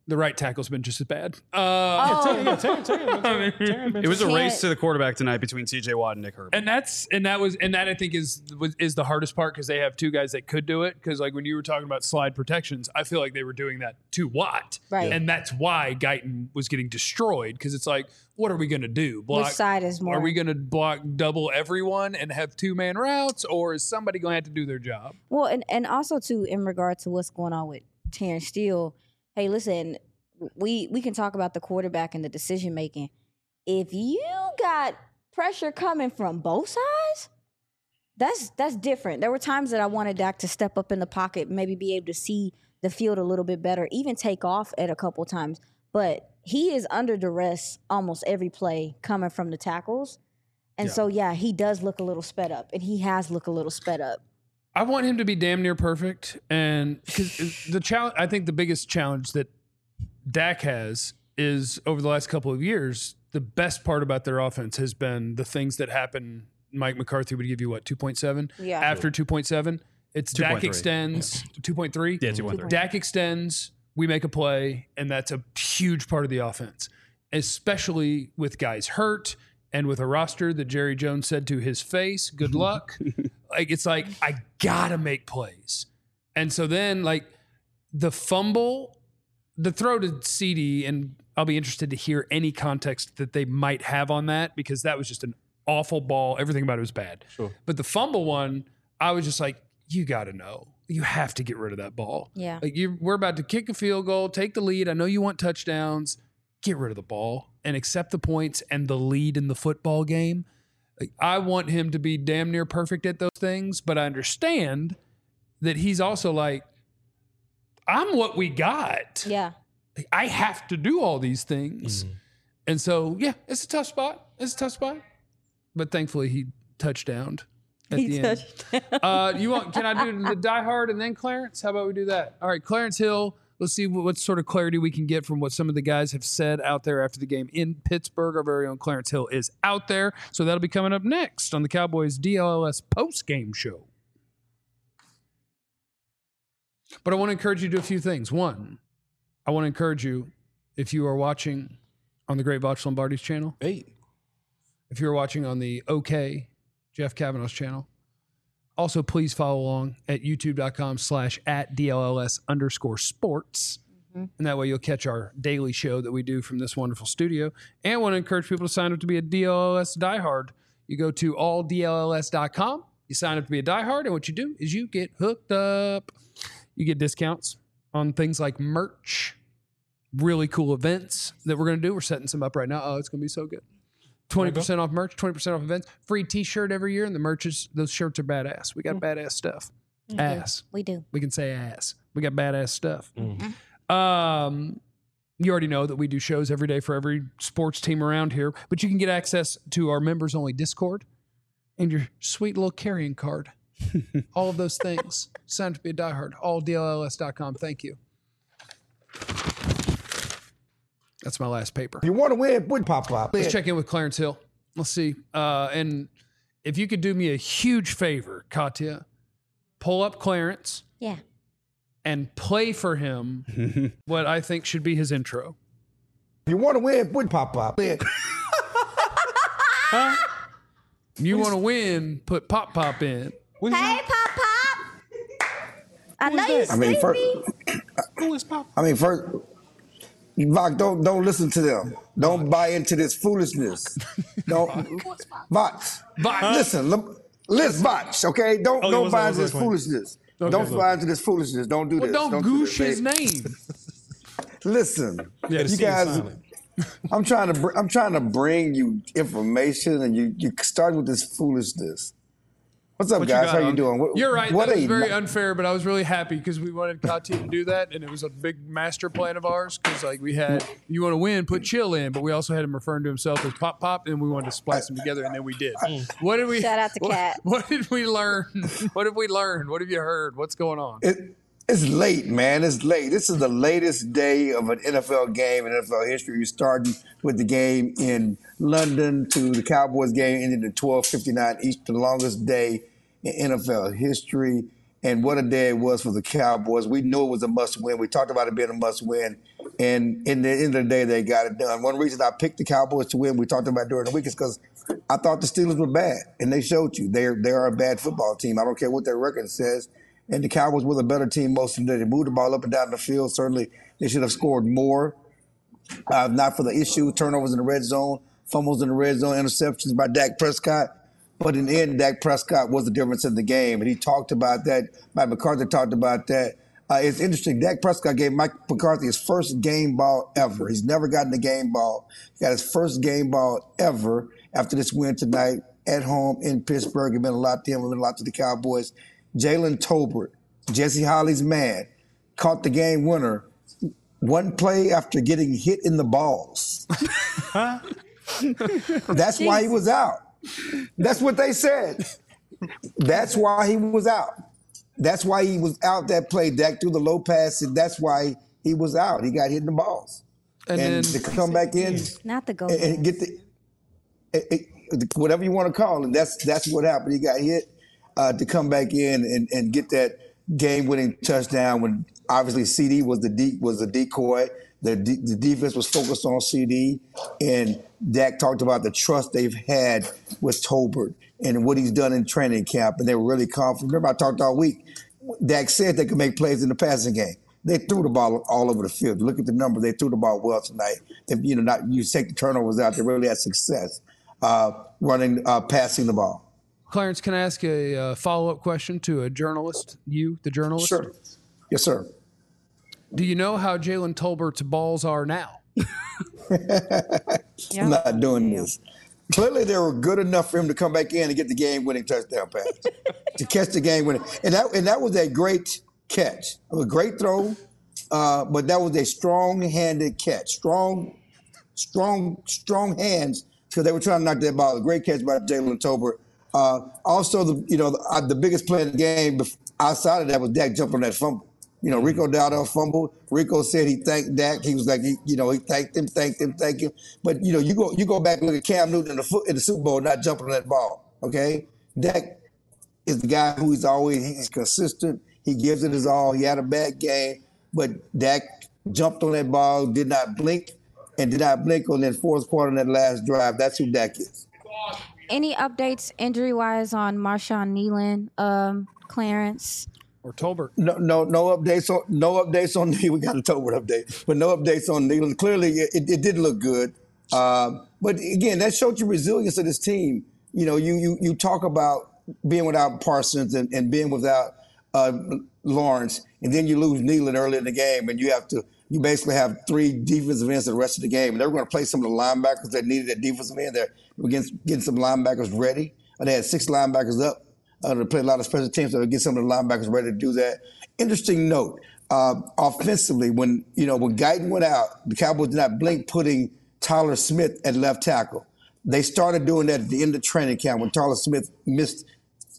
Speaker 2: The right tackle's been just as bad. Uh,
Speaker 1: Oh,
Speaker 3: Yeah, Terry- Terry- Terry- Terry been
Speaker 4: It was a
Speaker 1: Can't-
Speaker 4: race to the quarterback tonight between T J Watt and Nick Herbert.
Speaker 2: And that's and that was and that I think is was, is the hardest part because they have two guys that could do it. Because like when you were talking about slide protections, I feel like they were doing that to Watt,
Speaker 1: Right.
Speaker 2: And that's why Guyton was getting destroyed because it's like, what are we going to do? Block?
Speaker 1: which side is more?
Speaker 2: Are we going to block double everyone and have two man routes, or is somebody going to have to do their job?
Speaker 1: Well, and, and also too, in regard to what's going on with Terrence Steele, hey, listen, we we can talk about the quarterback and the decision making. If you got pressure coming from both sides, that's that's different. There were times that I wanted Dak to step up in the pocket, maybe be able to see the field a little bit better, even take off at a couple times. But he is under duress almost every play coming from the tackles. And
Speaker 2: Yeah.
Speaker 1: so, yeah, he does look a little sped up, and he has looked a little sped up.
Speaker 2: I want him to be damn near perfect, and because the challenge, I think the biggest challenge that Dak has is over the last couple of years, the best part about their offense has been the things that happen. Mike McCarthy would give you what two point seven.
Speaker 1: Yeah.
Speaker 2: After two point seven, it's Dak
Speaker 4: two point three.
Speaker 2: extends two point three.
Speaker 4: Yeah, two point three.
Speaker 2: Dak extends. We make a play, and that's a huge part of the offense, especially with guys hurt. And with a roster that Jerry Jones said to his face, good luck. Like, it's like, I gotta make plays. And so then, like, the fumble, the throw to C D, and I'll be interested to hear any context that they might have on that because that was just an awful ball. Everything about it was bad.
Speaker 3: Sure.
Speaker 2: But the fumble one, I was just like, you gotta know. You have to get rid of that ball.
Speaker 1: Yeah.
Speaker 2: Like, you we're about to kick a field goal, take the lead. I know you want touchdowns. Get rid of the ball and accept the points and the lead in the football game. Like, I want him to be damn near perfect at those things, but I understand that he's also like, I'm what we got.
Speaker 1: Yeah.
Speaker 2: Like, I have to do all these things.
Speaker 3: Mm-hmm.
Speaker 2: And so, yeah, it's a tough spot. It's a tough spot. But thankfully, he touchdowned at
Speaker 1: He
Speaker 2: the end.
Speaker 1: touched.
Speaker 2: Uh, you want? Can I do the Die Hard and then Clarence? How about we do that? All right, Clarence Hill. Let's see what, what sort of clarity we can get from what some of the guys have said out there after the game in Pittsburgh. Our very own Clarence Hill is out there, so that'll be coming up next on the Cowboys D L L S post game show. But I want to encourage you to do a few things. One, I want to encourage you if you are watching on the Great Voch Lombardi's channel.
Speaker 3: Hey.
Speaker 2: If you're watching on the OK Jeff Kavanaugh's channel, also please follow along at youtube.com slash at DLLS underscore sports.
Speaker 1: Mm-hmm.
Speaker 2: And that way you'll catch our daily show that we do from this wonderful studio. And I want to encourage people to sign up to be a D L L S diehard. You go to all D L L S dot com, you sign up to be a diehard, and what you do is you get hooked up. You get discounts on things like merch, really cool events that we're going to do. We're setting some up right now. Oh, it's going to be so good. twenty percent off merch, twenty percent off events, free t-shirt every year, and the merch is, those shirts are badass. We got badass stuff. Ass.
Speaker 1: We do.
Speaker 2: We can say ass. We got badass stuff. Um, you already know that we do shows every day for every sports team around here, but you can get access to our members-only Discord and your sweet little carrying card. All of those things. Sign up to be a diehard. all D L L S dot com. Thank you. That's my last paper.
Speaker 5: You want to win? Would pop up.
Speaker 2: Let's check in with Clarence Hill. Let's see. Uh, and if you could do me a huge favor, Katya, pull up Clarence
Speaker 1: Yeah.
Speaker 2: and play for him what I think should be his intro.
Speaker 5: You want to win? Would pop up.
Speaker 2: You want to win, put Pop Pop in.
Speaker 3: What is
Speaker 1: Hey,
Speaker 3: that?
Speaker 1: Pop Pop. I know you
Speaker 5: I mean, first,
Speaker 1: sleepy.
Speaker 3: Who is Pop?
Speaker 5: I mean, first, Vach, don't don't listen to them. Don't buy into this foolishness. Don't, Vach.
Speaker 2: Vach.
Speaker 5: Listen, look, listen, Vach. Okay, don't
Speaker 3: Oh, yeah,
Speaker 5: don't
Speaker 3: what's
Speaker 5: buy
Speaker 3: up,
Speaker 5: into
Speaker 3: what's
Speaker 5: this
Speaker 3: up,
Speaker 5: foolishness.
Speaker 3: Okay,
Speaker 5: don't
Speaker 3: what's up?
Speaker 5: buy into this foolishness. Don't do
Speaker 2: Well,
Speaker 5: this.
Speaker 2: don't
Speaker 5: do
Speaker 2: goosh
Speaker 5: this.
Speaker 2: his name.
Speaker 5: Listen,
Speaker 3: Yeah, the
Speaker 5: you
Speaker 3: C is
Speaker 5: guys.
Speaker 3: silent.
Speaker 5: I'm trying to br- I'm trying to bring you information, and you you starting with this foolishness. What's up,
Speaker 2: What
Speaker 5: guys?
Speaker 2: got,
Speaker 5: How you
Speaker 2: Unc?
Speaker 5: doing? What,
Speaker 2: You're right.
Speaker 5: What
Speaker 2: that was
Speaker 5: a-
Speaker 2: very unfair, but I was really happy because we wanted Katya to do that, and it was a big master plan of ours. Because like we had, you want to win, put Chill in, but we also had him referring to himself as Pop Pop, and we wanted to splice them together, and then we did. What did we?
Speaker 1: Shout out to
Speaker 2: what,
Speaker 1: Kat.
Speaker 2: What did we learn? What have we learned? What have you heard? What's going on?
Speaker 5: It, it's late, man. It's late. This is the latest day of an N F L game in N F L history. You're starting with the game in London to the Cowboys game ending at twelve fifty-nine Eastern, the longest day in N F L history. And what a day it was for the Cowboys. We knew it was a must-win. We talked about it being a must-win. And in the end of the day, they got it done. One reason I picked the Cowboys to win, we talked about during the week, is because I thought the Steelers were bad, and they showed you they're they are a bad football team. I don't care what their record says. And the Cowboys were the better team most of the day. They moved the ball up and down the field. Certainly, they should have scored more. Uh, not for the issue, turnovers in the red zone, fumbles in the red zone, interceptions by Dak Prescott. But in the end, Dak Prescott was the difference in the game. And he talked about that. Mike McCarthy talked about that. Uh, it's interesting. Dak Prescott gave Mike McCarthy his first game ball ever. He's never gotten a game ball. He got his first game ball ever after this win tonight at home in Pittsburgh. It meant a lot to him. It meant a lot to the Cowboys. Jalen Tolbert, Jesse Holly's man, caught the game winner one play after getting hit in the balls. That's why he was out. That's what they said. That's why he was out. That's why he was out that play. Dak threw the low pass, and that's why he was out. He got hit in the balls. And, and then, to come back in
Speaker 1: not the goal
Speaker 5: and, and get the it, it, whatever you want to call it. That's that's what happened. He got hit uh, to come back in and, and get that game-winning touchdown when obviously C D was the de- was the decoy. The, de- the defense was focused on C D, and Dak talked about the trust they've had with Tolbert and what he's done in training camp, and they were really confident. Remember, I talked all week. Dak said they could make plays in the passing game. They threw the ball all over the field. Look at the numbers. They threw the ball well tonight. They, you know, not you take the turnovers out. They really had success uh, running, uh, passing the ball.
Speaker 2: Clarence, can I ask a uh, follow-up question to a journalist? You, the journalist?
Speaker 5: Sure. Yes, sir.
Speaker 2: Do you know how Jalen Tolbert's balls are now?
Speaker 5: I'm not doing this. Clearly, they were good enough for him to come back in and get the game-winning touchdown pass, to catch the game-winning. And that, and that was a great catch. It was a great throw, uh, but that was a strong-handed catch. Strong, strong, strong hands, because they were trying to knock that ball. A great catch by Jalen Tolbert. Uh, also, the you know the, uh, the biggest play in the game outside of that was Dak jumping on that fumble. You know, Rico Dowdell fumbled. Rico said he thanked Dak. He was like, he, you know, he thanked him, thanked him, thanked him. But you know, you go, you go back and look at Cam Newton in the foot in the Super Bowl, not jumping on that ball. Okay, Dak is the guy who is always he's consistent. He gives it his all. He had a bad game, but Dak jumped on that ball, did not blink, and did not blink on that fourth quarter in that last drive. That's who Dak is.
Speaker 1: Any updates injury wise on Marshawn Nealon, um, Clarence?
Speaker 2: Or Tolbert?
Speaker 5: No, no, no updates on no updates on we got a Tolbert update, but no updates on Nealon. Clearly, it, it did look good, um, but again, that showed you resilience of this team. You know, you you you talk about being without Parsons and, and being without uh, Lawrence, and then you lose Nealon early in the game, and you have to you basically have three defensive ends for the rest of the game, and they were going to play some of the linebackers that needed that defensive end. They're getting, getting some linebackers ready. They had six linebackers up. Uh, to play a lot of special teams, so to get some of the linebackers ready to do that. Interesting note, uh, offensively, when you know when Guyton went out, the Cowboys did not blink putting Tyler Smith at left tackle. They started doing that at the end of training camp when Tyler Smith missed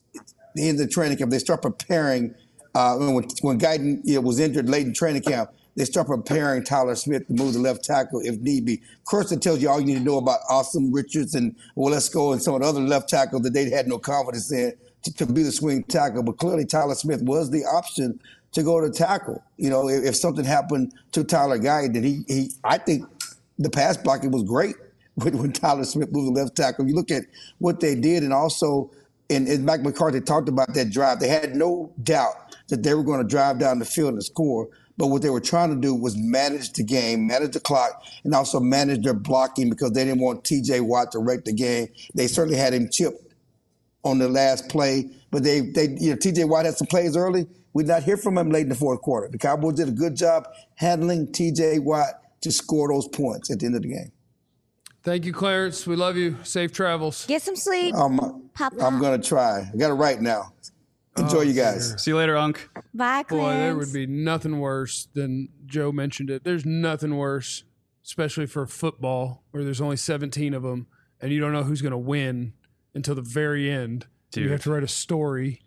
Speaker 5: the end of the training camp. They start preparing uh, when when Guyton you know, was injured late in training camp. They start preparing Tyler Smith to move the left tackle if need be. Of course, it tells you all you need to know about Austin Richards and Walesko and some of the other left tackles that they had no confidence in to, to be the swing tackle. But clearly, Tyler Smith was the option to go to tackle. You know, if, if something happened to Tyler Guyton, then he, he, I think the pass blocking was great when, when Tyler Smith moved the left tackle. You look at what they did, and also, and, and Mike McCarthy talked about that drive. They had no doubt that they were going to drive down the field and score. But what they were trying to do was manage the game, manage the clock, and also manage their blocking because they didn't want T J Watt to wreck the game. They certainly had him chipped on the last play, but they, they, you know, T J Watt had some plays early. We did not hear from him late in the fourth quarter. The Cowboys did a good job handling T J Watt to score those points at the end of the game.
Speaker 2: Thank you, Clarence. We love you. Safe travels.
Speaker 1: Get some sleep.
Speaker 5: Um,
Speaker 1: Papa.
Speaker 5: I'm going to try. I got it right now. Enjoy,
Speaker 2: Oh,
Speaker 5: you guys.
Speaker 2: dear.
Speaker 4: See you later, Unc.
Speaker 1: Bye, Clarence.
Speaker 2: Boy, there would be nothing worse than Joe mentioned it. There's nothing worse, especially for football, where there's only seventeen of them, and you don't know who's going to win until the very end.
Speaker 4: Dude.
Speaker 2: You have to write a story.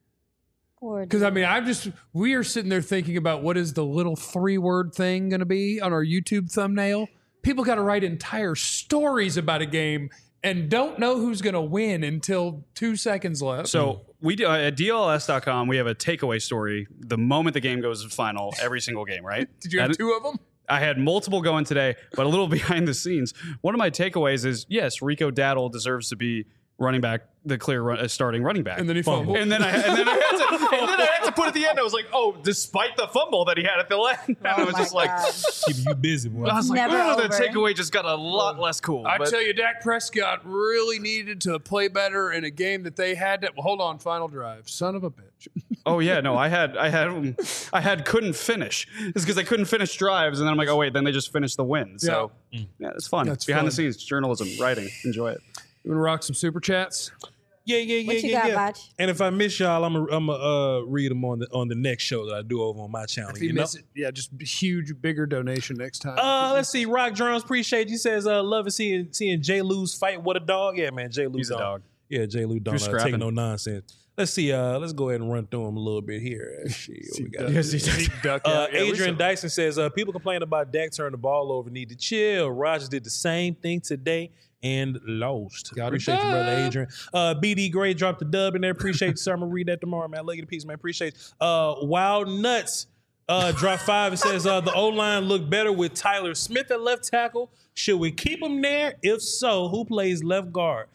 Speaker 1: Poor
Speaker 2: Because, I mean, I'm just, we are sitting there thinking about what is the little three word thing going to be on our YouTube thumbnail. People got to write entire stories about a game and don't know who's going to win until two seconds left.
Speaker 4: So we do uh, at D L S dot com. We have a takeaway story the moment the game goes to final every single game. Right?
Speaker 2: Did you have
Speaker 4: And-
Speaker 2: two of them?
Speaker 4: I had multiple going today, but a little behind the scenes. One of my takeaways is, yes, Rico Daddle deserves to be running back, the clear run, uh, starting running back.
Speaker 2: And then he fumbled.
Speaker 4: And then I, and then I had to, and then I had to put at the end. I was like, oh, despite the fumble that he had at the end, and I was
Speaker 1: my
Speaker 4: just like,
Speaker 1: God.
Speaker 3: Keeping you busy, boy.
Speaker 4: I was like,
Speaker 1: Never
Speaker 4: oh, the
Speaker 1: over.
Speaker 4: takeaway just got a lot less cool.
Speaker 2: I
Speaker 4: but-
Speaker 2: tell you, Dak Prescott really needed to play better in a game that they had to. Well, hold on, final drive. Son of a bitch.
Speaker 4: Oh yeah, no, I had, I had, um, I had couldn't finish. It's because I couldn't finish drives, and then I'm like, oh wait, then they just finished the win. So yeah, it's fun.
Speaker 2: That's
Speaker 4: Behind
Speaker 2: fun.
Speaker 4: the scenes journalism, writing, enjoy it.
Speaker 2: You want to rock some super chats?
Speaker 3: Yeah, yeah, yeah,
Speaker 1: What you
Speaker 3: yeah,
Speaker 1: got,
Speaker 3: yeah.
Speaker 1: Bach?
Speaker 3: And if I miss y'all, I'm gonna I'm uh, read them on the on the next show that I do over on my channel.
Speaker 2: If
Speaker 3: You
Speaker 2: you
Speaker 3: know?
Speaker 2: miss it, yeah, just huge, bigger donation next time.
Speaker 3: Uh, let's see. Rock Drums, appreciate you. Says, uh, love seeing seeing J. Lou's fight. What a dog. Yeah, man. J. Lou
Speaker 4: He's a
Speaker 3: don't-
Speaker 4: dog.
Speaker 3: Yeah, J. Lou don't
Speaker 4: You're
Speaker 3: uh, take
Speaker 4: scrapping.
Speaker 3: no nonsense. Let's see. Uh, let's go ahead and run through them a little bit here. Shit, what we got?
Speaker 4: Yes, he does.
Speaker 2: Duck
Speaker 3: Uh,
Speaker 2: out. Yeah, we
Speaker 3: Adrian
Speaker 2: saw-
Speaker 3: Dyson says, uh, people complain about Dak turning the ball over, need to chill. Rodgers did the same thing today and lost.
Speaker 2: Got a
Speaker 3: Appreciate you, brother
Speaker 2: dub.
Speaker 3: Adrian. Uh, B D Gray dropped the dub in there. Appreciate you, sir. I'm going to read that tomorrow, man. Look at the piece, man. Appreciate you. Uh, Wild Nuts uh, dropped five. It says, uh, the O-line looked better with Tyler Smith at left tackle. Should we keep him there? If so, who plays left guard?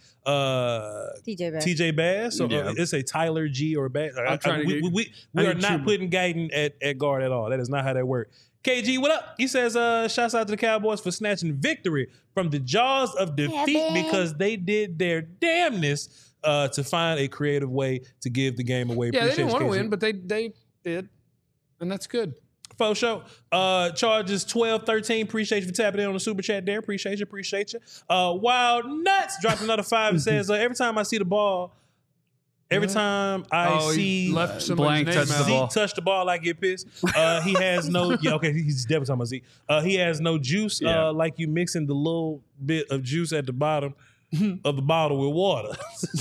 Speaker 3: Uh,
Speaker 1: T J Bass.
Speaker 3: T J Bass. So
Speaker 4: Yeah.
Speaker 3: uh, it's a Tyler G or Bass. I-
Speaker 2: I'm trying
Speaker 3: I-
Speaker 2: to
Speaker 3: we,
Speaker 2: get-
Speaker 3: we, we,
Speaker 2: I
Speaker 3: we are
Speaker 2: need
Speaker 3: not
Speaker 2: Chuba.
Speaker 3: putting Guyton at, at guard at all. That is not how that works. K G, what up? He says, uh, shouts out to the Cowboys for snatching victory from the jaws of defeat
Speaker 1: Kevin.
Speaker 3: because they did their damnness uh, to find a creative way to give the game away.
Speaker 2: Yeah, they
Speaker 3: Appreciate
Speaker 2: didn't
Speaker 3: you,
Speaker 2: want to
Speaker 3: K G.
Speaker 2: win, but they they did, and that's good.
Speaker 3: For sure. Uh, charges twelve thirteen. Appreciate you for tapping in on the super chat there. Appreciate you. Appreciate you. Uh, Wild Nuts dropped another five. It says, uh, every time I see the ball, every time I
Speaker 2: Oh, he
Speaker 3: see
Speaker 2: left somebody's
Speaker 4: Blank
Speaker 2: name
Speaker 4: touched the
Speaker 2: out.
Speaker 3: Zeke
Speaker 4: ball.
Speaker 3: touch the ball, I get pissed. Uh, he has no. Yeah, okay, he's definitely talking about Zeke. Uh, he has no juice.
Speaker 4: Yeah.
Speaker 3: Uh, like you mixing the little bit of juice at the bottom of the bottle with water.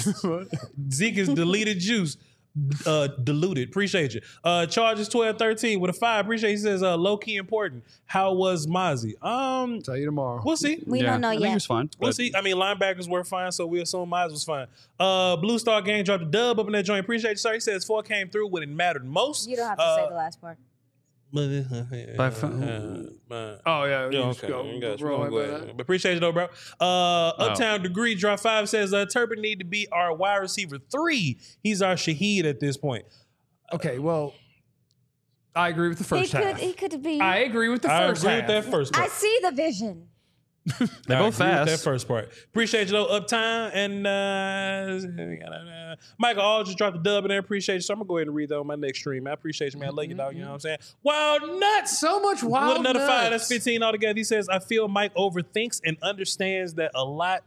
Speaker 3: Zeke is deleted juice. Uh, diluted. Appreciate you. Uh, charges twelve thirteen with a five. Appreciate you. He says, uh, low key important. How was Mozzie? Um,
Speaker 2: Tell you tomorrow.
Speaker 3: we'll see.
Speaker 1: We
Speaker 4: yeah,
Speaker 1: don't know
Speaker 4: I think
Speaker 1: yet.
Speaker 4: he was fine.
Speaker 3: We'll
Speaker 4: but-
Speaker 3: see. I mean, linebackers were fine, so we assume Mize was fine. Uh, Blue Star Gang dropped a dub up in that joint. Appreciate you, sir. He says four came through when it mattered most.
Speaker 1: You don't have to
Speaker 3: Uh,
Speaker 1: say the last part.
Speaker 3: By
Speaker 4: phone.
Speaker 2: Oh yeah, you
Speaker 3: Yeah,
Speaker 2: just
Speaker 3: okay.
Speaker 2: go,
Speaker 3: You got you.
Speaker 2: roll
Speaker 3: Go
Speaker 2: right by
Speaker 3: ahead.
Speaker 2: that.
Speaker 3: But appreciate you though, bro. Uh, Uptown Degree drop five says uh, Turpin need to be our wide receiver three. He's our Shaheed at this point.
Speaker 2: Okay, well, I agree with the
Speaker 1: He
Speaker 2: first
Speaker 1: could,
Speaker 2: half.
Speaker 1: he could be.
Speaker 2: I agree with the
Speaker 3: I
Speaker 2: first
Speaker 3: agree
Speaker 2: half.
Speaker 3: with that first
Speaker 1: I
Speaker 3: part.
Speaker 1: see the vision.
Speaker 4: They're
Speaker 3: I
Speaker 4: both
Speaker 3: agree with
Speaker 4: fast.
Speaker 3: That first part. Appreciate you though, Uptime and uh, Michael All just dropped a dub in there. Appreciate you. So I'm gonna go ahead and read that on my next stream. I appreciate you, man. I love you, dog. You know what I'm saying? Wild nuts.
Speaker 2: So much wild
Speaker 3: With another five,
Speaker 2: nuts.
Speaker 3: that's fifteen altogether. He says, I feel Mike overthinks and understands that a lot,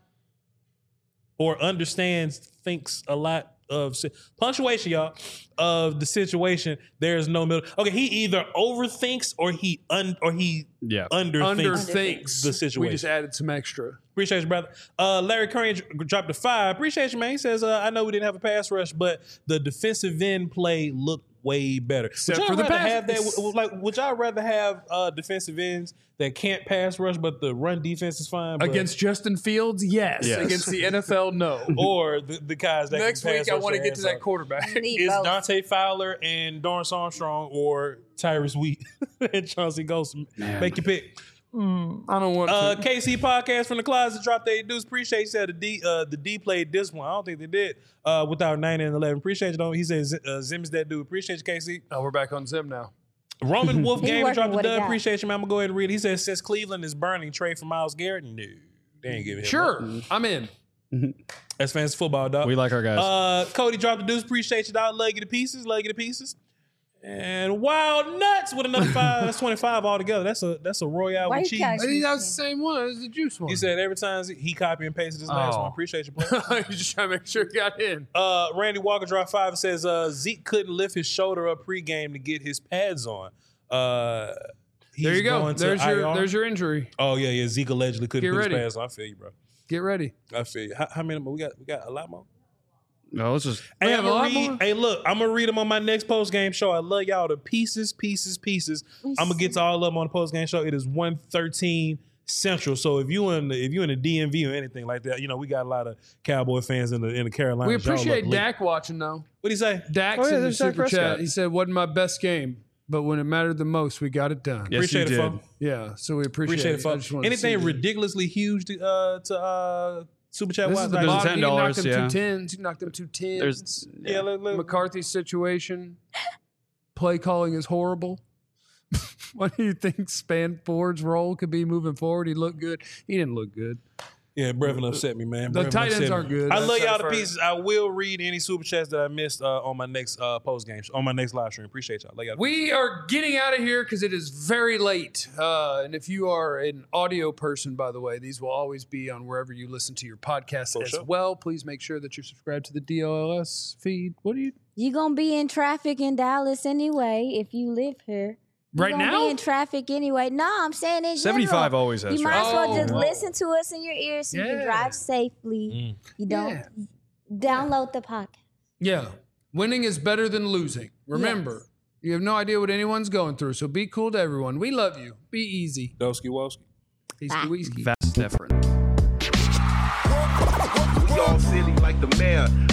Speaker 3: or understands, thinks a lot of si- punctuation, y'all, of the situation. There's no middle. Okay, he either overthinks or he un or he
Speaker 4: Yeah.
Speaker 3: underthinks,
Speaker 2: Underthinks
Speaker 3: the situation.
Speaker 2: We just added some extra.
Speaker 3: Appreciate you, brother. Uh, Larry Curry dr- dropped a five. Appreciate you, man. He says, uh, I know we didn't have a pass rush, but the defensive end play looked way better.
Speaker 2: Except
Speaker 3: would y'all
Speaker 2: for the
Speaker 3: rather
Speaker 2: pass-
Speaker 3: have that? w- w- Like, would y'all rather have uh, defensive ends that can't pass rush, but the run defense is fine? But,
Speaker 2: Against Justin Fields, yes.
Speaker 4: Yes.
Speaker 2: Against the N F L, no.
Speaker 3: or the, the guys that
Speaker 2: Next
Speaker 3: can pass
Speaker 2: week, I
Speaker 3: rush
Speaker 2: want to
Speaker 3: their
Speaker 2: get to
Speaker 3: ass
Speaker 2: that
Speaker 3: off?
Speaker 2: quarterback.
Speaker 1: Need
Speaker 3: It's
Speaker 1: both.
Speaker 3: Dante Fowler and Dorrance Armstrong or Tyrus Wheat and Chauncey Golston. Make your pick.
Speaker 2: I don't want
Speaker 3: Uh,
Speaker 2: to.
Speaker 3: K C podcast from the closet dropped their dudes. Appreciate you said the D uh, the D played this one. I don't think they did uh, without nine and eleven. Appreciate you though. He says uh, Zim is that dude. Appreciate you, K C.
Speaker 2: Oh, we're back on Zim now.
Speaker 3: Roman Wolf
Speaker 1: He
Speaker 3: game
Speaker 1: working
Speaker 3: dropped the
Speaker 1: what he
Speaker 3: dub.
Speaker 1: got.
Speaker 3: Appreciate you, man. I'm gonna go ahead and read it. He says since Cleveland is burning, trade for Myles Garrett. No, they ain't giving him.
Speaker 2: Sure,
Speaker 3: up.
Speaker 2: I'm in.
Speaker 3: That's fantasy football, dog.
Speaker 4: We like our guys.
Speaker 3: Uh, Cody dropped the deuce. Appreciate you, dog. Love you to pieces. Love you to pieces. And Wild Nuts with another five. That's twenty-five altogether. That's a that's a Royale
Speaker 1: Why
Speaker 3: with
Speaker 1: you
Speaker 3: cheese.
Speaker 1: guys-
Speaker 2: I think that was the same one as the juice one.
Speaker 3: He said every time he copy and pasted his last
Speaker 4: Oh.
Speaker 3: one. Appreciate you, bro.
Speaker 2: You're just trying to make sure it got in.
Speaker 3: Uh, Randy Walker drop five says uh, Zeke couldn't lift his shoulder up pregame to get his pads on. Uh, he's
Speaker 2: There you go.
Speaker 3: going to
Speaker 2: There's your
Speaker 3: I R.
Speaker 2: there's your injury.
Speaker 3: Oh yeah, yeah. Zeke allegedly couldn't
Speaker 2: Get
Speaker 3: put
Speaker 2: ready.
Speaker 3: his pads on. I feel you, bro.
Speaker 2: Get ready.
Speaker 3: I feel you. How, how many more? We got we got a lot more.
Speaker 4: no, let's just.
Speaker 3: Hey,
Speaker 2: have
Speaker 3: I'm
Speaker 2: a
Speaker 3: gonna
Speaker 2: lot
Speaker 3: read,
Speaker 2: more?
Speaker 3: hey, look, I'm gonna read them on my next post game show. I love y'all to pieces, pieces, pieces. I'm gonna get to all of them on the post game show. It is one thirteen Central. So if you in the, if you in the D M V or anything like that, you know we got a lot of Cowboy fans in the in the Carolinas.
Speaker 2: We
Speaker 3: Y'all
Speaker 2: appreciate
Speaker 3: look lit.
Speaker 2: Dak watching though.
Speaker 3: What do you say?
Speaker 2: Dak's
Speaker 4: Oh, yeah,
Speaker 2: in the
Speaker 4: there's Dak
Speaker 2: super chat.
Speaker 4: Prescott.
Speaker 2: He said, "Wasn't my best game, but when it mattered the most, we got it done.
Speaker 4: Yes,
Speaker 3: Appreciate
Speaker 4: you
Speaker 3: it,
Speaker 4: did.
Speaker 3: folks.
Speaker 2: Yeah, so we appreciate,
Speaker 3: Appreciate it,
Speaker 2: it. I
Speaker 3: folks.
Speaker 2: just wanted to see
Speaker 3: Anything
Speaker 2: that.
Speaker 3: ridiculously huge to uh, to uh, super chat
Speaker 2: This
Speaker 3: wise?
Speaker 2: is the
Speaker 3: Like,
Speaker 4: There's a
Speaker 2: Bob,
Speaker 4: ten
Speaker 2: he knocked
Speaker 4: dollars,
Speaker 2: them
Speaker 4: yeah.
Speaker 2: two tens. He knocked them two tens.
Speaker 4: There's
Speaker 3: yeah, look, look.
Speaker 2: McCarthy's situation. Play calling is horrible. What do you think Spanford's role could be moving forward? He looked good. He didn't look good.
Speaker 3: Yeah, Brevin upset me, man.
Speaker 2: The
Speaker 3: Brevin
Speaker 2: tight
Speaker 3: upset
Speaker 2: ends
Speaker 3: me.
Speaker 2: aren't good.
Speaker 3: I
Speaker 2: That's
Speaker 3: love
Speaker 2: our
Speaker 3: y'all to
Speaker 2: first.
Speaker 3: pieces. I will read any super chats that I missed uh, on my next uh, post game, on my next live stream. Appreciate y'all. Love y'all.
Speaker 2: We are getting out of here because it is very late. Uh, and if you are an audio person, by the way, these will always be on wherever you listen to your podcasts
Speaker 3: For
Speaker 2: as
Speaker 3: sure.
Speaker 2: well. Please make sure that you're subscribed to the D O L S feed. What do you
Speaker 1: You gonna be in traffic in Dallas anyway if you live here. You
Speaker 2: right
Speaker 1: gonna
Speaker 2: now?
Speaker 1: be in traffic anyway. No, I'm saying in
Speaker 4: seventy-five
Speaker 1: general.
Speaker 4: always has
Speaker 1: You might as
Speaker 4: traffic.
Speaker 1: well just
Speaker 2: Oh.
Speaker 1: listen to us in your ears so you
Speaker 2: Yeah.
Speaker 1: can drive safely.
Speaker 3: Mm.
Speaker 1: You don't
Speaker 2: Yeah.
Speaker 1: download the podcast.
Speaker 2: Yeah. Winning is better than losing. Remember, you have no idea what anyone's going through. So be cool to everyone. We love you. Be easy.
Speaker 3: Doski Woski.
Speaker 2: Peace,
Speaker 1: Bye.
Speaker 2: Whiskey.
Speaker 4: Vast different.
Speaker 6: We all silly like the mayor.